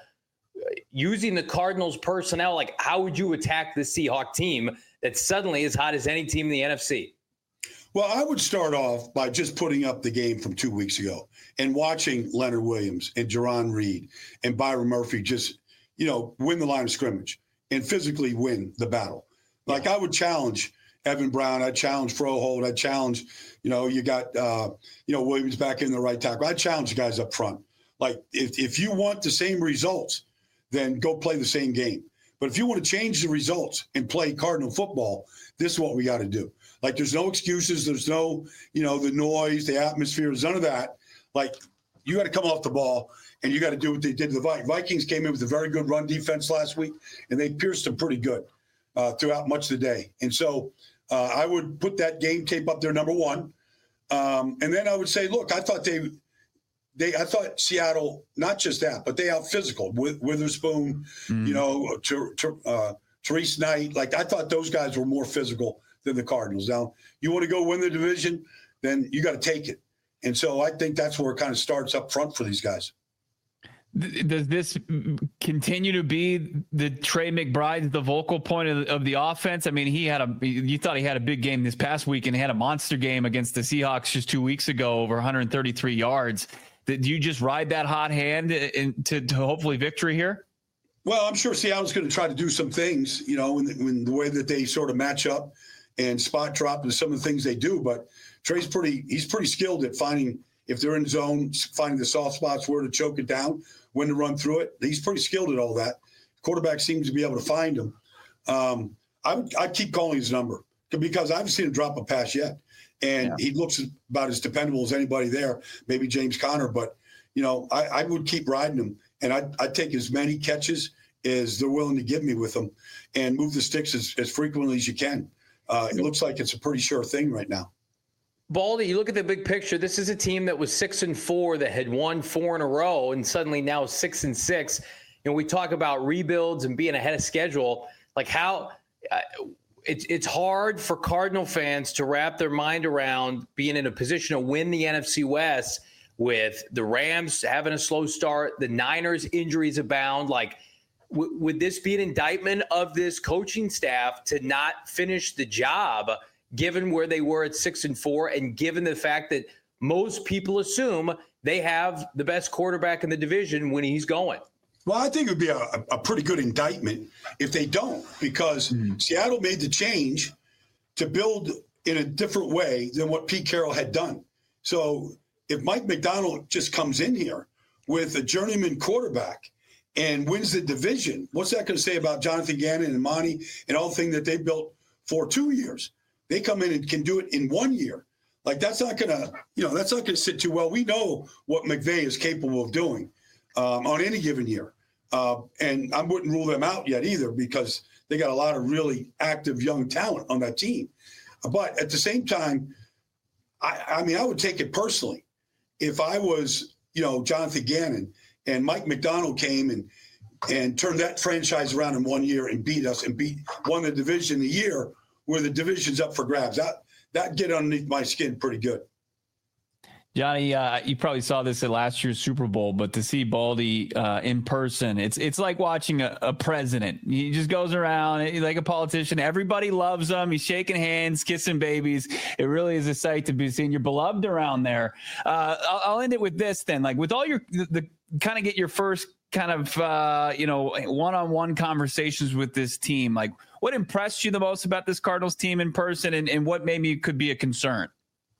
Speaker 2: using the Cardinals personnel, like, how would you attack the Seahawk team that's suddenly as hot as any team in the NFC?
Speaker 6: Well, I would start off by just putting up the game from 2 weeks ago and watching Leonard Williams and Jerron Reed and Byron Murphy just, win the line of scrimmage and physically win the battle. Like, I would challenge Evan Brown. I'd challenge Froholt. I'd challenge, you got, Williams back in the right tackle. I'd challenge the guys up front. Like, if you want the same results, then go play the same game. But if you want to change the results and play Cardinal football, this is what we got to do. Like, there's no excuses. There's no, the noise, the atmosphere, there's none of that. Like, you got to come off the ball, and you got to do what they did to the Vikings. Vikings came in with a very good run defense last week, and they pierced them pretty good throughout much of the day. And so I would put that game tape up there, number one. And then I would say, look, I thought I thought Seattle, not just that, but they out physical with Witherspoon, Therese Knight. Like, I thought those guys were more physical than the Cardinals. Now, you want to go win the division, then you got to take it. And so I think that's where it kind of starts up front for these guys.
Speaker 1: Does this continue to be the Trey McBride, the vocal point of the offense? I mean, you thought he had a big game this past week and had a monster game against the Seahawks just 2 weeks ago, over 133 yards. Did you just ride that hot hand to hopefully victory here?
Speaker 6: Well, I'm sure Seattle's going to try to do some things, in the way that they sort of match up and spot drop and some of the things they do. But Trey's pretty skilled at finding, if they're in zone, finding the soft spots, where to choke it down, when to run through it. He's pretty skilled at all that. Quarterback seems to be able to find him. I'd keep calling his number because I haven't seen him drop a pass yet. And he looks about as dependable as anybody there, maybe James Conner. But, I would keep riding him. And I'd take as many catches as they're willing to give me with them and move the sticks as frequently as you can. It looks like it's a pretty sure thing right now.
Speaker 2: Baldy, you look at the big picture. This is a team that was 6-4 that had won 4 in a row and suddenly now 6-6. We talk about rebuilds and being ahead of schedule. Like, how it's hard for Cardinal fans to wrap their mind around being in a position to win the NFC West with the Rams having a slow start, the Niners injuries abound. Like, would this be an indictment of this coaching staff to not finish the job, given where they were at 6-4, and given the fact that most people assume they have the best quarterback in the division when he's going?
Speaker 6: Well, I think it would be a pretty good indictment if they don't, because Seattle made the change to build in a different way than what Pete Carroll had done. So if Mike Macdonald just comes in here with a journeyman quarterback and wins the division, what's that going to say about Jonathan Gannon and Monty and all the things that they built for 2 years? They come in and can do it in 1 year. Like, that's not going to, that's not going to sit too well. We know what McVay is capable of doing on any given year. And I wouldn't rule them out yet either, because they got a lot of really active young talent on that team. But at the same time, I mean, I would take it personally. If I was, Jonathan Gannon and Mike Macdonald came and turned that franchise around in 1 year and beat us and won the division a year where the division's up for grabs, that'd get underneath my skin pretty good.
Speaker 1: Johnny, you probably saw this at last year's Super Bowl, but to see Baldy in person, it's like watching a president. He just goes around like a politician. Everybody loves him. He's shaking hands, kissing babies. It really is a sight to be seen. You're beloved around there. I'll end it with this then. Like, with all the kind of get your first kind of one-on-one conversations with this team, like, what impressed you the most about this Cardinals team in person, and what maybe could be a concern?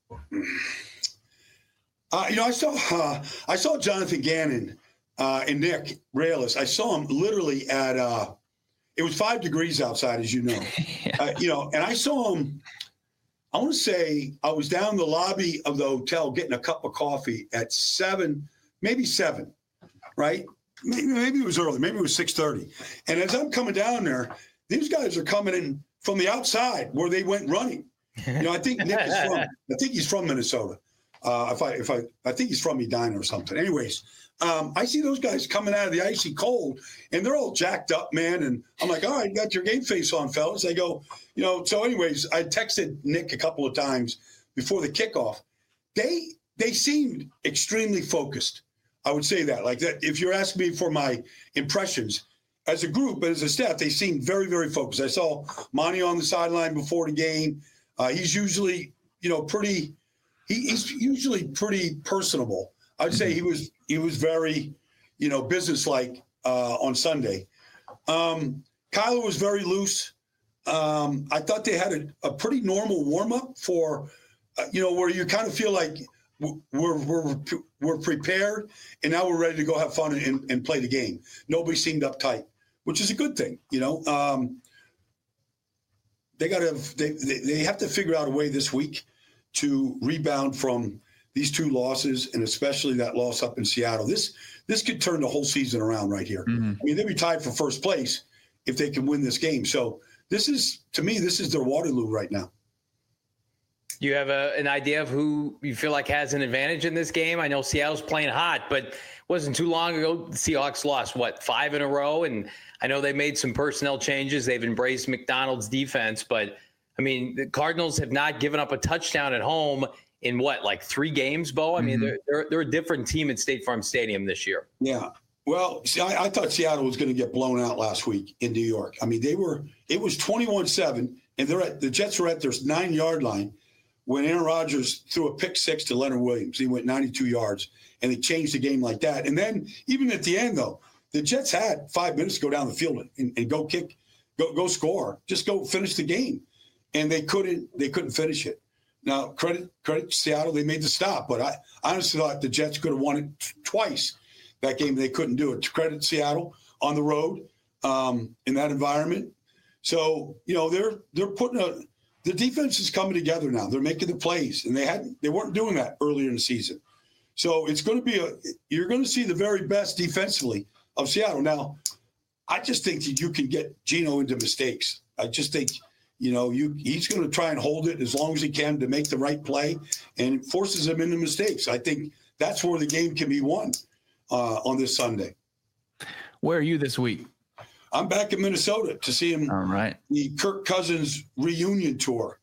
Speaker 6: I saw Jonathan Gannon and Nick Rallis. I saw him literally at it was 5 degrees outside, as you know. And I saw him. I want to say I was down in the lobby of the hotel getting a cup of coffee at 7, maybe 7, right? Maybe it was early. Maybe it was 6:30. And as I'm coming down there, these guys are coming in from the outside where they went running. I think Nick is from. I think he's from Minnesota. I think he's from Edina or something. Anyways, I see those guys coming out of the icy cold, and they're all jacked up, man. And I'm like, all right, you got your game face on, fellas. They go, So, anyways, I texted Nick a couple of times before the kickoff. They seemed extremely focused. I would say that. Like, that, if you're asking me for my impressions as a group, but as a staff, they seemed very, very focused. I saw Monty on the sideline before the game. He's usually, pretty. He's usually pretty personable. I'd say he was very, businesslike on Sunday. Kyler was very loose. I thought they had a pretty normal warm up for, where you kind of feel like we're prepared and now we're ready to go have fun and play the game. Nobody seemed uptight, which is a good thing. They have to figure out a way this week to rebound from these 2 losses, and especially that loss up in Seattle. This could turn the whole season around right here. Mm-hmm. I mean, they'd be tied for first place if they can win this game. So this is their Waterloo right now.
Speaker 2: Do you have an idea of who you feel like has an advantage in this game? I know Seattle's playing hot, but it wasn't too long ago the Seahawks lost, 5 in a row? And I know they made some personnel changes. They've embraced McDonald's defense, but I mean, the Cardinals have not given up a touchdown at home in 3 games, Bo? I mean, they're a different team at State Farm Stadium this year.
Speaker 6: Yeah. Well, see, I thought Seattle was going to get blown out last week in New York. I mean, it was 21-7, and the Jets were at their 9-yard line when Aaron Rodgers threw a pick 6 to Leonard Williams. He went 92 yards, and they changed the game like that. And then even at the end, though, the Jets had 5 minutes to go down the field and go kick, go score, just go finish the game. And they couldn't finish it. Now, credit Seattle, they made the stop, but I honestly thought the Jets could have won it twice that game. They couldn't do it. Credit Seattle on the road in that environment. So they're putting the defense is coming together now. They're making the plays, and they weren't doing that earlier in the season. So it's going to be you're going to see the very best defensively of Seattle. Now, I just think that you can get Geno into mistakes. I just think. He's going to try and hold it as long as he can to make the right play, and it forces him into mistakes. I think that's where the game can be won on this Sunday.
Speaker 1: Where are you this week?
Speaker 6: I'm back in Minnesota to see him.
Speaker 1: All right.
Speaker 6: The Kirk Cousins reunion tour.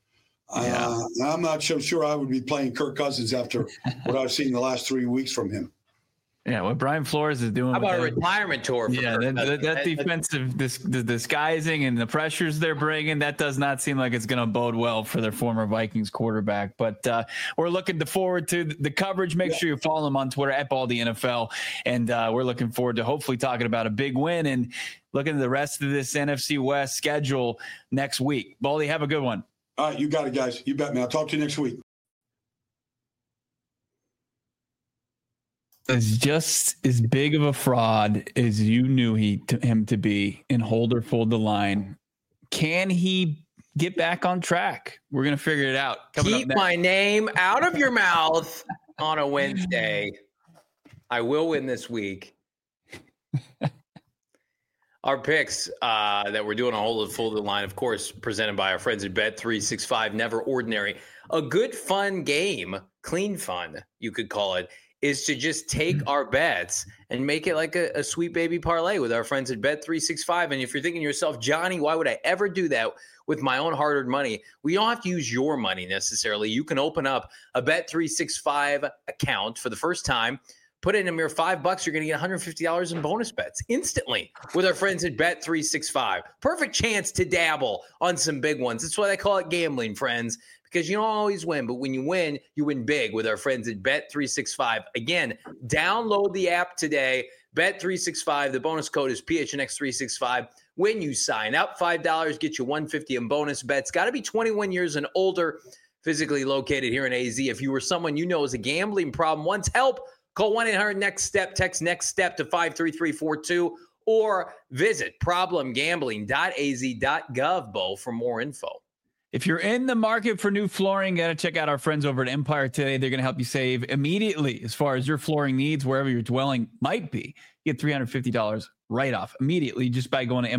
Speaker 6: I'm not so sure I would be playing Kirk Cousins after what I've seen the last 3 weeks from him.
Speaker 1: Yeah, what Brian Flores is doing.
Speaker 2: How about a retirement tour?
Speaker 1: That defensive the disguising and the pressures they're bringing, that does not seem like it's going to bode well for their former Vikings quarterback. But we're looking forward to the coverage. Make sure you follow them on Twitter at BaldyNFL. And we're looking forward to hopefully talking about a big win and looking at the rest of this NFC West schedule next week. Baldy, have a good one.
Speaker 6: All right, you got it, guys. You bet me. I'll talk to you next week.
Speaker 1: Is just as big of a fraud as you knew him to be in hold or fold the line. Can he get back on track? We're going to figure it out.
Speaker 2: Keep my name out of your mouth on a Wednesday. I will win this week. Our picks that we're doing a hold or fold the line, of course, presented by our friends at Bet365, Never Ordinary. A good, fun game, clean fun, you could call it, is to just take our bets and make it like a sweet baby parlay with our friends at Bet365. And if you're thinking to yourself, Johnny, why would I ever do that with my own hard-earned money? We don't have to use your money necessarily. You can open up a Bet365 account for the first time, put in a mere $5, you're going to get $150 in bonus bets instantly with our friends at Bet365. Perfect chance to dabble on some big ones. That's why they call it gambling, friends. Because you don't always win, but when you win big with our friends at Bet365. Again, download the app today, Bet365. The bonus code is PHNX365. When you sign up, $5 get you $150 in bonus bets. Got to be 21 years and older, physically located here in AZ. If you or someone you know has a gambling problem, wants help, call 1-800-NEXT-STEP, text NEXT STEP to 53342, or visit problemgambling.az.gov, Bo, for more info.
Speaker 1: If you're in the market for new flooring, got to check out our friends over at Empire today. They're going to help you save immediately as far as your flooring needs, wherever your dwelling might be. You get $350 right off immediately just by going to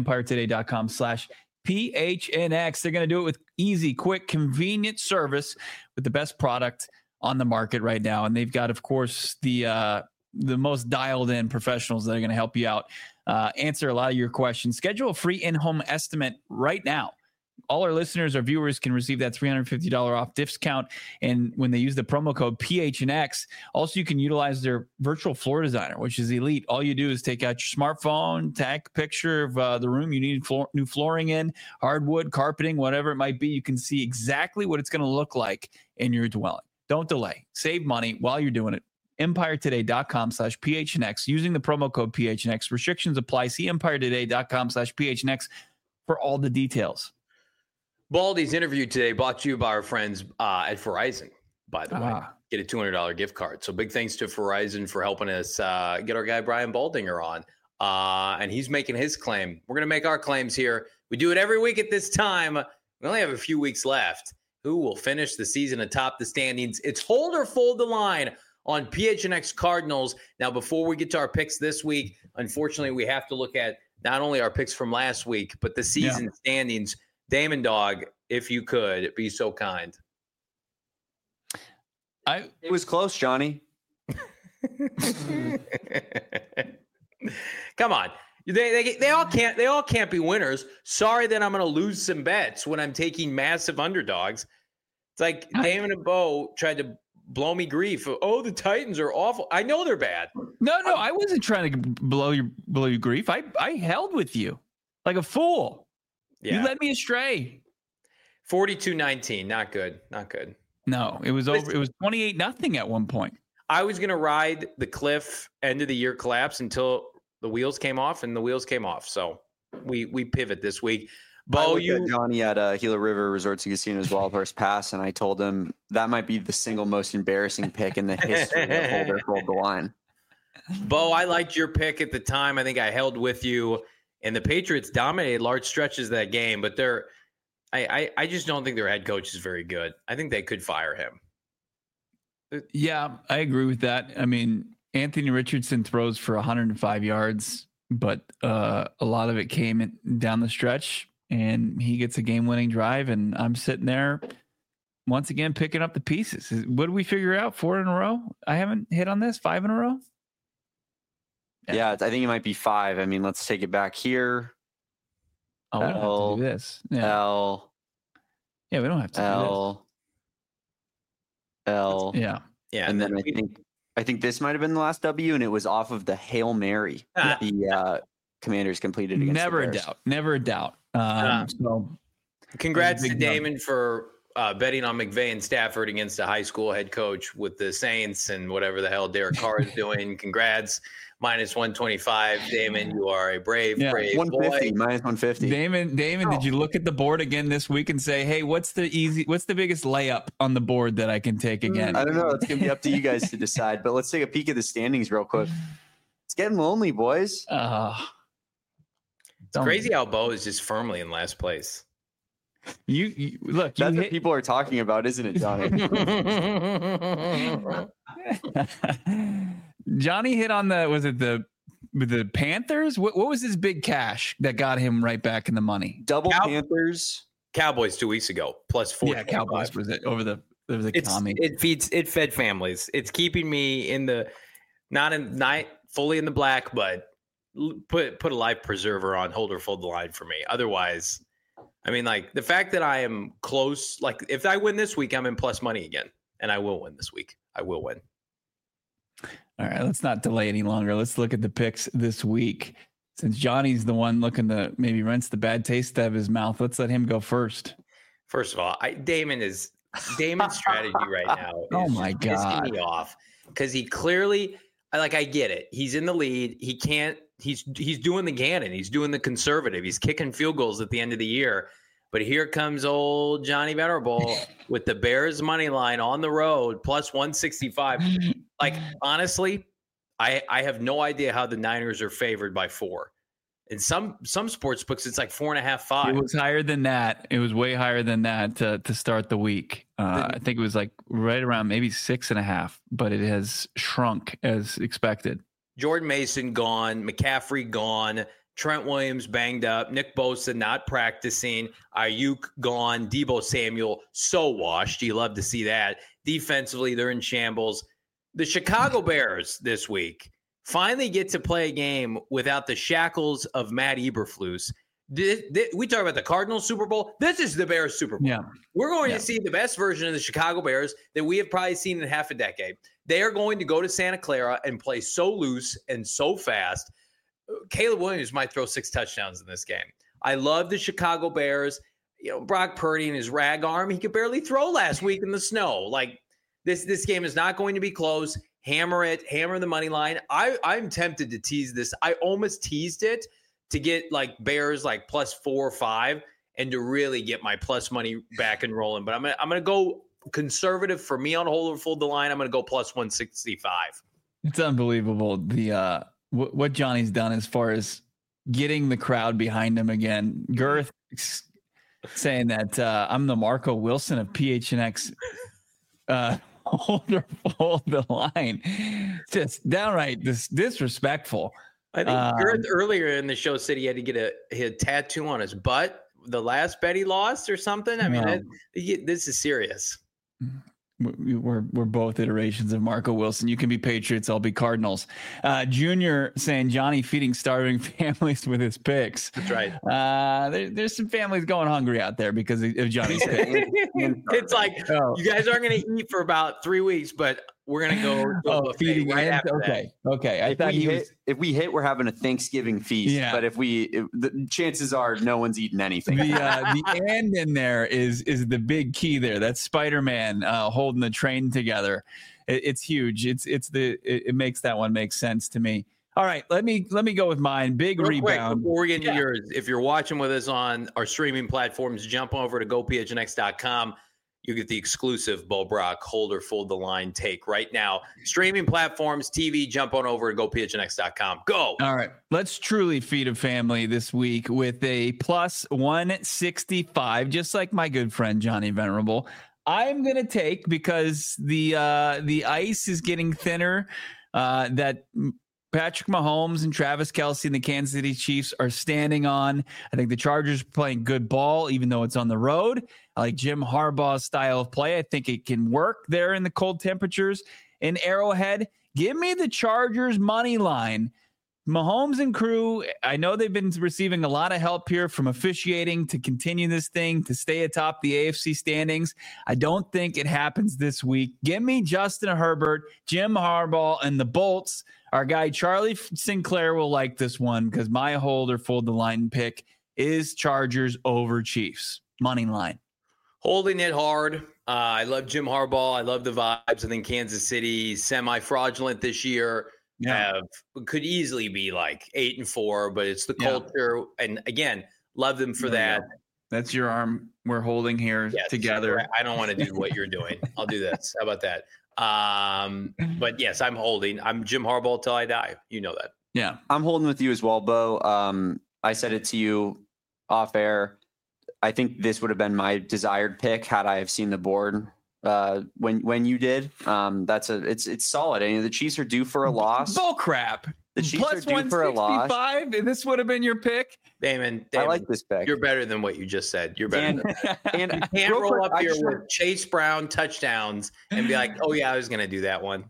Speaker 1: empiretoday.com/PHNX. They're going to do it with easy, quick, convenient service with the best product on the market right now. And they've got, of course, the most dialed in professionals that are going to help you out, answer a lot of your questions. Schedule a free in-home estimate right now. All our listeners, our viewers can receive that $350 off discount. And when they use the promo code PHNX, also you can utilize their virtual floor designer, which is elite. All you do is take out your smartphone, take a picture of the room you need new flooring in, hardwood, carpeting, whatever it might be. You can see exactly what it's going to look like in your dwelling. Don't delay. Save money while you're doing it. EmpireToday.com/PHNX using the promo code PHNX. Restrictions apply. See EmpireToday.com/PHNX for all the details.
Speaker 2: Baldy's interview today brought to you by our friends at Verizon, by the way. Get a $200 gift card. So big thanks to Verizon for helping us get our guy Brian Baldinger on. And he's making his claim. We're going to make our claims here. We do it every week at this time. We only have a few weeks left. Who will finish the season atop the standings? It's hold or fold the line on PHNX Cardinals. Now, before we get to our picks this week, unfortunately, we have to look at not only our picks from last week, but the season standings. Damon Dog, if you could be so kind.
Speaker 4: It was close, Johnny.
Speaker 2: Come on. They all can't be winners. Sorry that I'm going to lose some bets when I'm taking massive underdogs. It's like Damon and Bo tried to blow me grief. Oh, the Titans are awful. I know they're bad.
Speaker 1: No, I wasn't trying to blow you grief. I held with you like a fool. Yeah. You led me astray.
Speaker 2: 42-19. Not good.
Speaker 1: No, it was over. It was 28-0 at one point.
Speaker 2: I was going to ride the cliff end of the year collapse until the wheels came off, and the wheels came off. So we pivot this week. Bo,
Speaker 4: Johnny at Gila River Resorts and Casinos Wild Horse Pass, and I told him that might be the single most embarrassing pick in the history of hold or fold the line.
Speaker 2: Bo, I liked your pick at the time. I think I held with you. And the Patriots dominated large stretches of that game, but I just don't think their head coach is very good. I think they could fire him.
Speaker 1: Yeah, I agree with that. I mean, Anthony Richardson throws for 105 yards, but a lot of it came down the stretch, and he gets a game-winning drive, and I'm sitting there once again picking up the pieces. What did we figure out? 4 in a row? I haven't hit on this. 5 in a row?
Speaker 4: Yeah, I think it might be 5. I mean, let's take it back here.
Speaker 1: Oh, we'll have to do this. Yeah.
Speaker 4: L.
Speaker 1: Yeah, we don't have to
Speaker 4: L.
Speaker 1: Yeah.
Speaker 4: And then I think this might have been the last W, and it was off of the Hail Mary the Commanders completed against
Speaker 1: Never
Speaker 4: the Bears.
Speaker 1: Never a doubt. So
Speaker 2: congrats to Damon for betting on McVay and Stafford against a high school head coach with the Saints and whatever the hell Derek Carr is doing. Congrats. Minus 125. Damon, you are a brave
Speaker 4: 150,
Speaker 2: boy.
Speaker 4: minus 150.
Speaker 1: Damon, did you look at the board again this week and say, hey, what's the biggest layup on the board that I can take again?
Speaker 4: I don't know. It's going to be up to you guys to decide, but let's take a peek at the standings real quick. It's getting lonely, boys.
Speaker 2: It's crazy how Bo is just firmly in last place.
Speaker 1: You look.
Speaker 4: That's what people are talking about, isn't it, Johnny?
Speaker 1: Johnny hit on the Panthers? What was his big cash that got him right back in the money?
Speaker 4: Panthers.
Speaker 2: Cowboys 2 weeks ago, plus 4.
Speaker 1: Yeah, Cowboys was it over the Tommy.
Speaker 2: It fed families. It's keeping me in the not fully in the black, but put a life preserver on, hold or fold the line for me. Otherwise, I mean, like the fact that I am close, like if I win this week, I'm in plus money again, and I will win this week. I will win.
Speaker 1: All right, let's not delay any longer. Let's look at the picks this week. Since Johnny's the one looking to maybe rinse the bad taste out of his mouth, let's let him go first.
Speaker 2: First of all, Damon's strategy right now is
Speaker 1: oh my God.
Speaker 2: pissing me off because he clearly, I get it. He's in the lead. He can't. He's doing the Gannon. He's doing the conservative. He's kicking field goals at the end of the year. But here comes old Johnny Venerable with the Bears money line on the road, plus 165. Like, honestly, I have no idea how the Niners are favored by 4. In some sports books, it's like 4.5, 5.
Speaker 1: It was higher than that. It was way higher than that to start the week. I think it was like right around maybe 6.5, but it has shrunk as expected.
Speaker 2: Jordan Mason gone, McCaffrey gone, Trent Williams banged up, Nick Bosa not practicing, Ayuk gone, Deebo Samuel so washed. You love to see that. Defensively, they're in shambles. The Chicago Bears this week finally get to play a game without the shackles of Matt Eberflus. We talk about the Cardinals Super Bowl. This is the Bears Super Bowl.
Speaker 1: Yeah.
Speaker 2: We're going to see the best version of the Chicago Bears that we have probably seen in half a decade. They are going to go to Santa Clara and play so loose and so fast. Caleb Williams might throw 6 touchdowns in this game. I love the Chicago Bears. You know, Brock Purdy and his rag arm, he could barely throw last week in the snow. Like, this game is not going to be close. Hammer it, hammer the money line. I'm tempted to tease this. I almost teased it to get like Bears like plus 4 or 5 and to really get my plus money back and rolling. But I'm gonna go conservative for me on hold or fold the line. I'm gonna go plus 165. It's
Speaker 1: unbelievable the what Johnny's done as far as getting the crowd behind him again. Girth saying that I'm the Marco Wilson of PHNX. Hold or fold the line. Just downright disrespectful.
Speaker 2: I think Girth earlier in the show said he had to get a tattoo on his butt the last bet he lost or something. I mean, this is serious.
Speaker 1: We're both iterations of Marco Wilson. You can be Patriots, I'll be Cardinals. Junior saying Johnny feeding starving families with his picks.
Speaker 2: That's right.
Speaker 1: There's some families going hungry out there because of Johnny's picks.
Speaker 2: It's like you guys aren't going to eat for about 3 weeks, but we're going to go
Speaker 1: feeding
Speaker 2: right after
Speaker 1: that. Okay. I thought
Speaker 4: if we hit, we're having a Thanksgiving feast. Yeah. But the chances are no one's eating anything.
Speaker 1: The end in there is the big key there. That's Spider-Man holding the train together. It's huge. It makes that one make sense to me. All right, let me go with mine. Big
Speaker 2: real
Speaker 1: rebound.
Speaker 2: Quick, before we get into yours, if you're watching with us on our streaming platforms, jump over to gophnx.com. You get the exclusive Bo Brock hold or fold the line take right now. Streaming platforms, TV, jump on over to gophnx.com. Go.
Speaker 1: All right. Let's truly feed a family this week with a plus 165, just like my good friend Johnny Venerable. I'm going to take, because the ice is getting thinner, that Patrick Mahomes and Travis Kelce and the Kansas City Chiefs are standing on. I think the Chargers are playing good ball, even though it's on the road. I like Jim Harbaugh's style of play. I think it can work there in the cold temperatures in Arrowhead. Give me the Chargers money line Mahomes and crew, I know they've been receiving a lot of help here from officiating to continue this thing, to stay atop the AFC standings. I don't think it happens this week. Give me Justin Herbert, Jim Harbaugh, and the Bolts. Our guy Charlie Sinclair will like this one because my hold or fold the line pick is Chargers over Chiefs. Money line.
Speaker 2: Holding it hard. I love Jim Harbaugh. I love the vibes. I think Kansas City semi-fraudulent this year. Could easily be like 8-4, but it's the culture. And again, love them for that.
Speaker 1: That's your arm we're holding here together.
Speaker 2: I don't want to do what you're doing. I'll do this. How about that? But yes, I'm holding. I'm Jim Harbaugh till I die. You know that.
Speaker 1: Yeah.
Speaker 4: I'm holding with you as well, Bo. I said it to you off air. I think this would have been my desired pick had I have seen the board when you did. It's solid. I mean, the Chiefs are due for a loss.
Speaker 1: Bull crap.
Speaker 4: The Chiefs are due for a loss.
Speaker 1: And this would have been your pick.
Speaker 2: Damon,
Speaker 4: I like this pick.
Speaker 2: You're better than what you just said. You're better. And you can't roll up here with Chase Brown touchdowns and be like, "Oh yeah, I was going to do that one."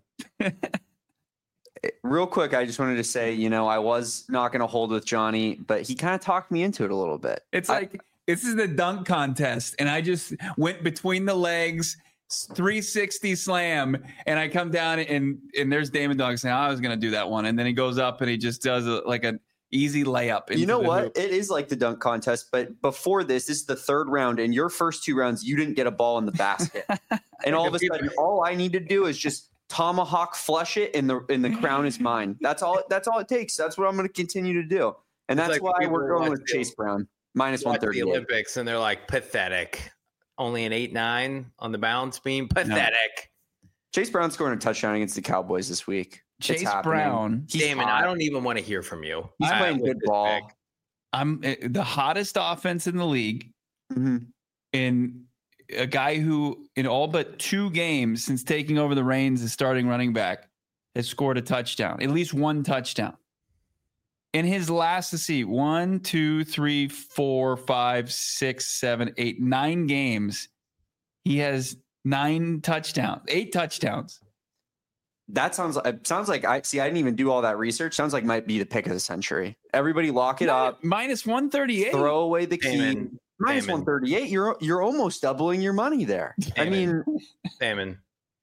Speaker 4: Real quick, I just wanted to say, I was not going to hold with Johnny, but he kind of talked me into it a little bit.
Speaker 1: It's like this is the dunk contest, and I just went between the legs, 360 slam, and I come down and there's Damon Dog saying, I was going to do that one, and then he goes up and he just does an easy layup.
Speaker 4: You know what?
Speaker 1: Hoop.
Speaker 4: It is like the dunk contest, but before this is the third round, and your first two rounds, you didn't get a ball in the basket, and all of a sudden, all I need to do is just tomahawk flush it, and the crown is mine. That's all it takes. That's what I'm going to continue to do, and that's why we're going with Chase Brown. Minus 130.
Speaker 2: The Olympics, and they're like pathetic. Only an 8-9 on the balance beam. Pathetic.
Speaker 4: No. Chase Brown scoring a touchdown against the Cowboys this week.
Speaker 1: Chase Brown.
Speaker 2: Damon, I don't even want to hear from you.
Speaker 4: He's playing good ball.
Speaker 1: Pick. I'm the hottest offense in the league.
Speaker 4: Mm-hmm.
Speaker 1: And a guy who, in all but 2 games since taking over the reins as starting running back, has scored a touchdown, at least one touchdown. In his last, let's see, 1, 2, 3, 4, 5, 6, 7, 8, 9 games, he has 8 touchdowns.
Speaker 4: That sounds like I didn't even do all that research. Sounds like might be the pick of the century. Everybody lock it up.
Speaker 1: Minus 138.
Speaker 4: Throw away the key. Minus 138. You're almost doubling your money there.
Speaker 2: Damon. Damon,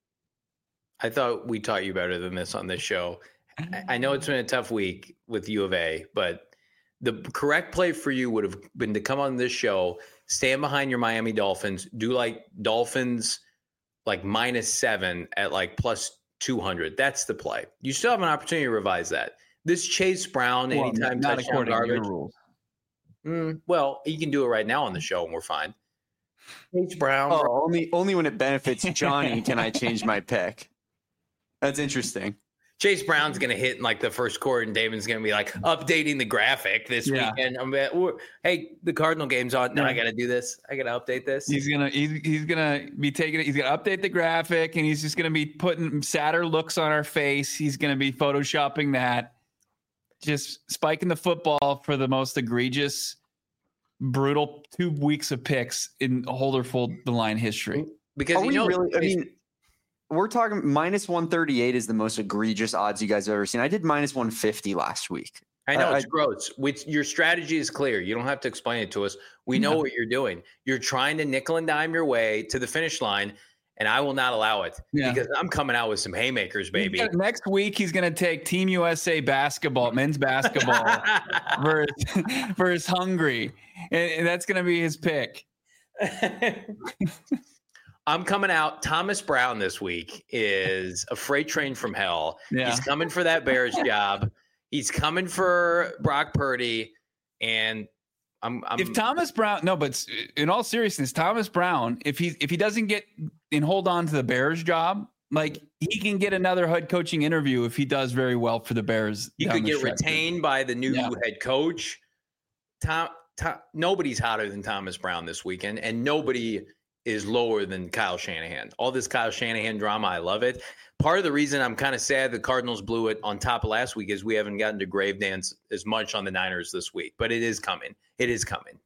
Speaker 2: I thought we taught you better than this on this show. I know it's been a tough week with U of A, but the correct play for you would have been to come on this show, stand behind your Miami Dolphins, do like Dolphins like -7 at like plus 200. That's the play. You still have an opportunity to revise that. This Chase Brown anytime
Speaker 1: not
Speaker 2: touchdown garbage.
Speaker 1: rules.
Speaker 2: Well, you can do it right now on the show and we're fine. Chase Brown.
Speaker 4: Oh, only when it benefits Johnny can I change my pick. That's interesting.
Speaker 2: Chase Brown's going to hit in like the first quarter, and Damon's going to be like updating the graphic this weekend. Hey, the Cardinal game's on. No, I got to do this. I got to update this.
Speaker 1: He's gonna be taking it. He's gonna update the graphic, and he's just gonna be putting sadder looks on our face. He's gonna be photoshopping that, just spiking the football for the most egregious, brutal 2 weeks of picks in Holder Fold the Line history.
Speaker 2: Because
Speaker 4: we're talking minus 138 is the most egregious odds you guys have ever seen. I did minus 150 last week.
Speaker 2: I know it's gross. Your strategy is clear. You don't have to explain it to us. We know what you're doing. You're trying to nickel and dime your way to the finish line, and I will not allow it because I'm coming out with some haymakers, baby.
Speaker 1: Next week, he's going to take Team USA basketball, men's basketball versus Hungary, and that's going to be his pick.
Speaker 2: I'm coming out. Thomas Brown this week is a freight train from hell. Yeah. He's coming for that Bears job. He's coming for Brock Purdy. And if Thomas Brown,
Speaker 1: but in all seriousness, Thomas Brown, if he doesn't get and hold on to the Bears job, like he can get another head coaching interview if he does very well for the Bears.
Speaker 2: He could get retained by the new head coach. Nobody's hotter than Thomas Brown this weekend, and nobody is lower than Kyle Shanahan. All this Kyle Shanahan drama, I love it. Part of the reason I'm kind of sad the Cardinals blew it on top of last week is we haven't gotten to grave dance as much on the Niners this week, but it is coming. It is coming.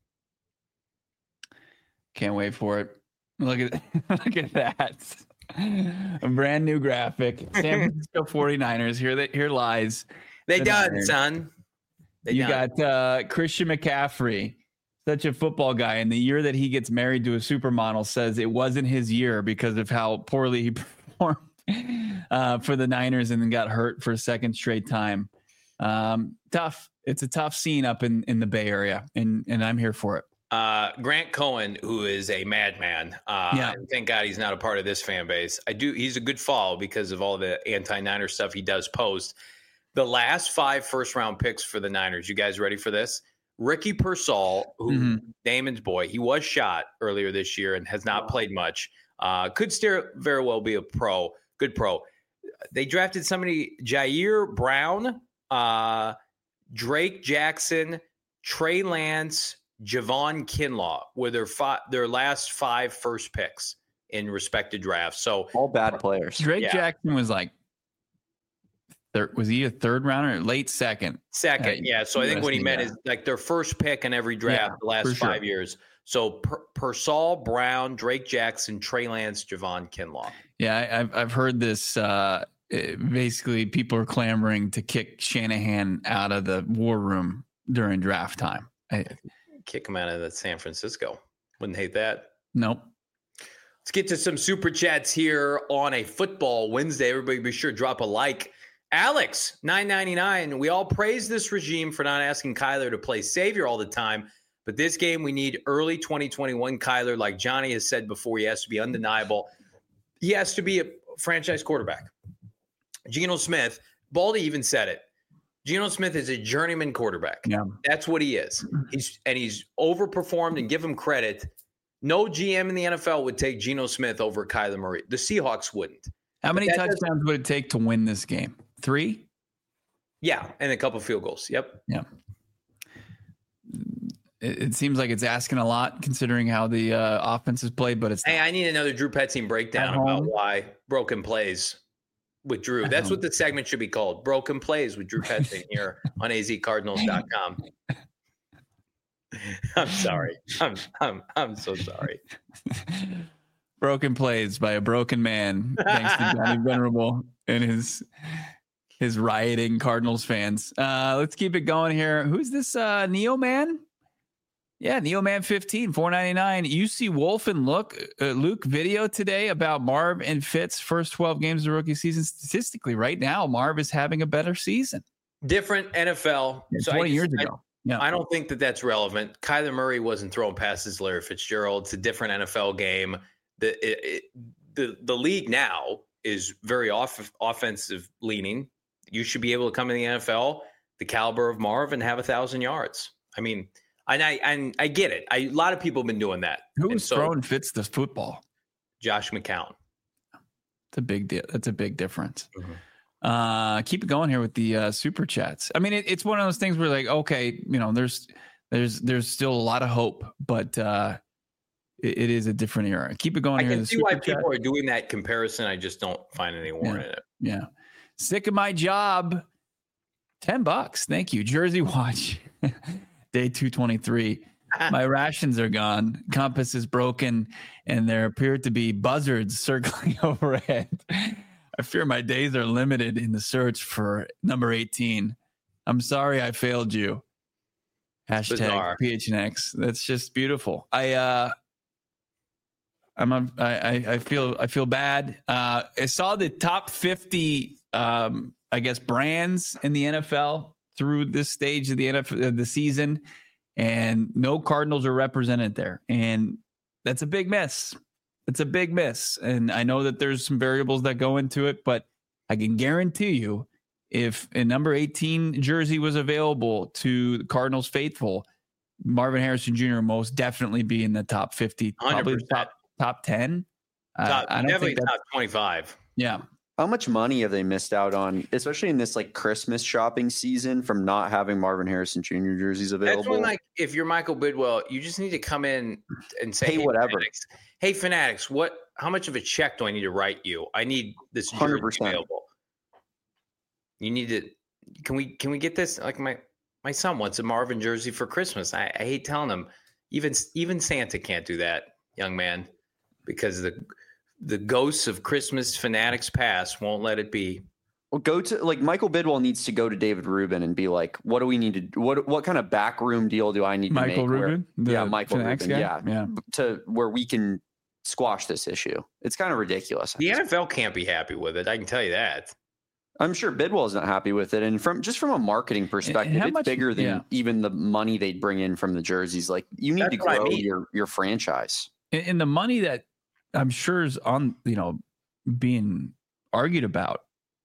Speaker 1: Can't wait for it. Look at that. A brand new graphic. San Francisco 49ers. Here lies
Speaker 2: They done, son.
Speaker 1: You got Christian McCaffrey, such a football guy. And the year that he gets married to a supermodel says it wasn't his year because of how poorly he performed for the Niners and then got hurt for a second straight time. Tough. It's a tough scene up in the Bay Area, and I'm here for it.
Speaker 2: Grant Cohen, who is a madman. Thank God he's not a part of this fan base. He's a good follow because of all the anti-Niner stuff he does post. The last 5 first-round picks for the Niners. You guys ready for this? Ricky Pearsall, who Damon's boy, he was shot earlier this year and has not played much. Could very well be a good pro. They drafted somebody, Jair Brown, Drake Jackson, Trey Lance, Javon Kinlaw were their last 5 first picks in respective drafts. So
Speaker 4: all bad players.
Speaker 1: Drake Jackson was like, was he a third rounder? Late second.
Speaker 2: Second, yeah. So I think what he meant is like their first pick in every draft the last 5 years. So Pearsall, Brown, Drake Jackson, Trey Lance, Javon Kinlaw.
Speaker 1: Yeah, I've heard this. Basically, people are clamoring to kick Shanahan out of the war room during draft time.
Speaker 2: Kick him out of the San Francisco. Wouldn't hate that.
Speaker 1: Nope.
Speaker 2: Let's get to some super chats here on a football Wednesday. Everybody be sure to drop a like. Alex, $9.99. We all praise this regime for not asking Kyler to play savior all the time. But this game, we need early 2021 Kyler. Like Johnny has said before, he has to be undeniable. He has to be a franchise quarterback. Geno Smith, Baldy even said it. Geno Smith is a journeyman quarterback.
Speaker 1: Yeah.
Speaker 2: That's what he is. He's overperformed, and give him credit. No GM in the NFL would take Geno Smith over Kyler Murray. The Seahawks wouldn't.
Speaker 1: How many touchdowns would it take to win this game? 3?
Speaker 2: Yeah, and a couple field goals. Yep.
Speaker 1: Yeah. It seems like it's asking a lot considering how the offense is played, but it's
Speaker 2: Hey, I need another Drew Petzing breakdown about why broken plays with Drew. That's what the segment should be called. Broken Plays with Drew Petzing here on azcardinals.com. I'm sorry. I'm so sorry.
Speaker 1: Broken Plays by a broken man. Thanks to Johnny Venerable and his rioting Cardinals fans. Let's keep it going here. Who's this Neo Man? Yeah, Neo Man 15, $4.99. UC Wolf and Luke video today about Marv and Fitz' first 12 games of the rookie season. Statistically, right now, Marv is having a better season.
Speaker 2: Different NFL.
Speaker 1: Yeah, 20 years ago.
Speaker 2: I don't think that's relevant. Kyler Murray wasn't throwing passes to Larry Fitzgerald. It's a different NFL game. The league now is very offensive leaning. You should be able to come in the NFL, the caliber of Marv, and have 1,000 yards. I mean, and I get it. A lot of people have been doing that.
Speaker 1: Who's throwing Fitz the football?
Speaker 2: Josh McCown.
Speaker 1: It's a big deal. That's a big difference. Mm-hmm. Keep it going here with the super chats. I mean, it's one of those things where like, okay, there's still a lot of hope, but it is a different era. Keep it going.
Speaker 2: I
Speaker 1: here.
Speaker 2: can see why people are doing that comparison. I just don't find any warrant in it.
Speaker 1: Yeah. Sick of my job. $10. Thank you. Jersey Watch. Day 223. My rations are gone. Compass is broken, and there appear to be buzzards circling overhead. I fear my days are limited in the search for number 18. I'm sorry I failed you. Hashtag PHNX. That's just beautiful. I feel bad. I saw the top 50 brands in the NFL through this stage of the season, and no Cardinals are represented there. And that's a big miss. It's a big miss. And I know that there's some variables that go into it, but I can guarantee you if a number 18 jersey was available to the Cardinals faithful, Marvin Harrison Jr. most definitely be in the top 50,
Speaker 2: 100%.
Speaker 1: Probably top 10. I don't think
Speaker 2: top 25.
Speaker 1: Yeah.
Speaker 4: How much money have they missed out on, especially in this like Christmas shopping season, from not having Marvin Harrison Jr. jerseys available?
Speaker 2: That's when, like, if you're Michael Bidwell, you just need to come in and say,
Speaker 4: hey, whatever.
Speaker 2: Hey, Fanatics, how much of a check do I need to write you? I need this jersey
Speaker 4: 100%.
Speaker 2: available. You need to. Can we get this? Like my son wants a Marvin jersey for Christmas. I hate telling him. Even Santa can't do that, young man, because the ghosts of Christmas Fanatics past won't let it be.
Speaker 4: Well, go to like Michael Bidwell needs to go to David Rubin and be like, what do we need to do? What kind of backroom deal do I need to make?
Speaker 1: Michael Rubin?
Speaker 4: Michael Rubin. Yeah. To where we can squash this issue. It's kind of ridiculous.
Speaker 2: The NFL can't be happy with it. I can tell you that.
Speaker 4: I'm sure Bidwell's not happy with it. And from a marketing perspective, it's bigger than even the money they'd bring in from the jerseys. Like you need to grow your franchise. And
Speaker 1: the money that I'm sure is on, being argued about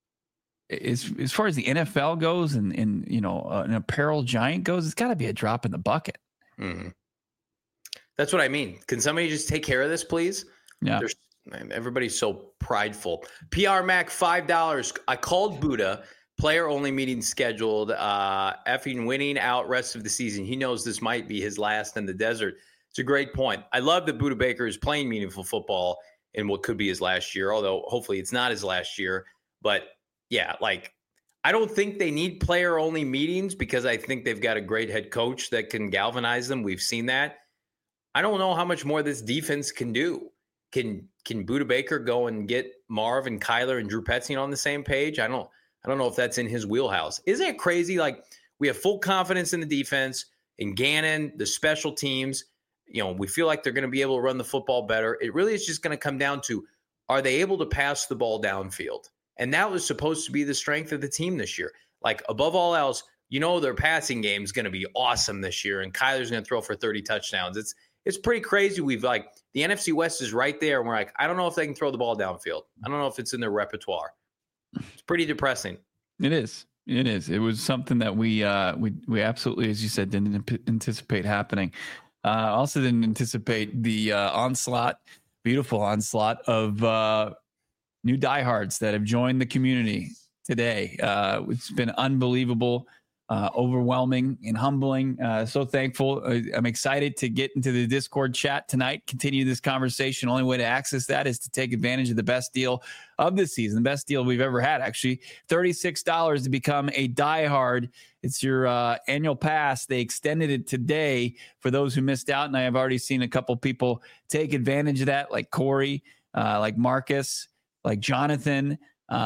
Speaker 1: as far as the NFL goes and an apparel giant goes, it's got to be a drop in the bucket.
Speaker 2: Mm-hmm. That's what I mean. Can somebody just take care of this, please?
Speaker 1: Yeah.
Speaker 2: Everybody's so prideful. PR Mac, $5. I called Buddha. Player only meeting scheduled. Effing winning out rest of the season. He knows this might be his last in the desert. It's a great point. I love that Buddha Baker is playing meaningful football in what could be his last year, although hopefully it's not his last year. But yeah, I don't think they need player only meetings because I think they've got a great head coach that can galvanize them. We've seen that. I don't know how much more this defense can do. Can Buddha Baker go and get Marv and Kyler and Drew Petzing on the same page? I don't know if that's in his wheelhouse. Isn't it crazy? We have full confidence in the defense, in Gannon, the special teams. We feel like they're going to be able to run the football better. It really is just going to come down to, are they able to pass the ball downfield? And that was supposed to be the strength of the team this year. Above all else, their passing game is going to be awesome this year, and Kyler's going to throw for 30 touchdowns. It's pretty crazy. The NFC West is right there, and we're I don't know if they can throw the ball downfield. I don't know if it's in their repertoire. It's pretty depressing.
Speaker 1: It is. It was something that we absolutely, as you said, didn't anticipate happening. Also didn't anticipate the beautiful onslaught of new diehards that have joined the community today. It's been unbelievable, overwhelming and humbling. So thankful. I'm excited to get into the Discord chat tonight, continue this conversation. Only way to access that is to take advantage of the best deal of the season, the best deal we've ever had, actually. $36 to become a diehard. It's your annual pass. They extended it today for those who missed out, and I have already seen a couple people take advantage of that, like Corey, like Marcus, like Jonathan.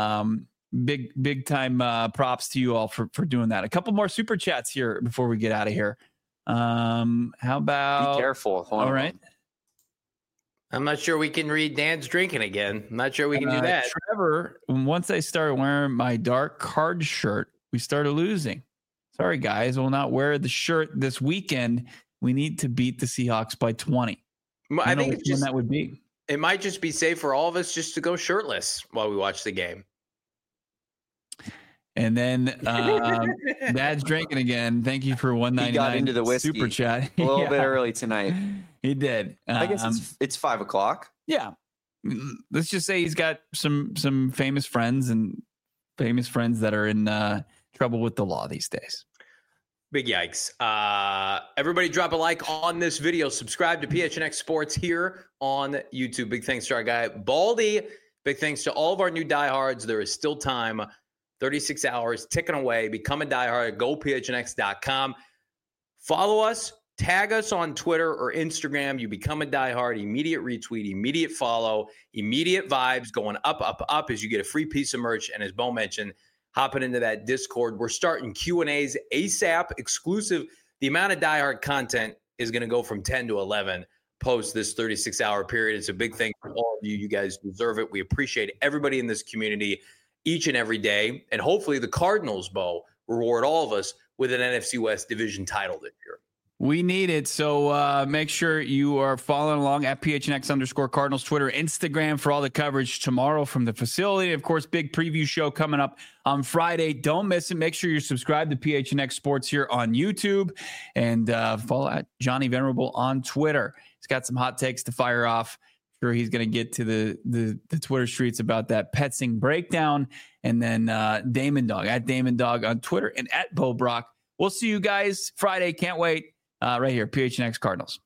Speaker 1: Big time props to you all for doing that. A couple more super chats here before we get out of here. How about...
Speaker 4: Be careful.
Speaker 1: All right.
Speaker 2: I'm not sure we can read Dan's drinking again. I'm not sure we can do that.
Speaker 1: Trevor, once I started wearing my dark card shirt, we started losing. Sorry, guys. We'll not wear the shirt this weekend. We need to beat the Seahawks by 20.
Speaker 2: I think it's just,
Speaker 1: that would be.
Speaker 2: It might just be safe for all of us just to go shirtless while we watch the game.
Speaker 1: And then Dad's drinking again. Thank you for $1.99.
Speaker 4: He got into the whiskey
Speaker 1: super chat
Speaker 4: a little bit early tonight.
Speaker 1: He did.
Speaker 4: I guess it's 5 o'clock.
Speaker 1: Yeah. Let's just say he's got some famous friends that are in trouble with the law these days.
Speaker 2: Big yikes. Everybody drop a like on this video. Subscribe to PHNX Sports here on YouTube. Big thanks to our guy, Baldy. Big thanks to all of our new diehards. There is still time. 36 hours ticking away. Become a diehard. GoPHNX.com. Follow us. Tag us on Twitter or Instagram. You become a diehard. Immediate retweet. Immediate follow. Immediate vibes going up, up, up as you get a free piece of merch. And as Bo mentioned, hopping into that Discord. We're starting Q&As ASAP, exclusive. The amount of diehard content is going to go from 10 to 11 post this 36-hour period. It's a big thing for all of you. You guys deserve it. We appreciate everybody in this community each and every day. And hopefully the Cardinals, Bo, reward all of us with an NFC West division title this year.
Speaker 1: We need it. So make sure you are following along at PHNX_Cardinals, Twitter, Instagram for all the coverage tomorrow from the facility. Of course, big preview show coming up on Friday. Don't miss it. Make sure you're subscribed to PHNX Sports here on YouTube and follow at Johnny Venerable on Twitter. He's got some hot takes to fire off. Sure, he's going to get to the Twitter streets about that Petzing breakdown. And then Damon Dog, at Damon Dog on Twitter, and at Bo Brock. We'll see you guys Friday. Can't wait. Right here, PHNX Cardinals.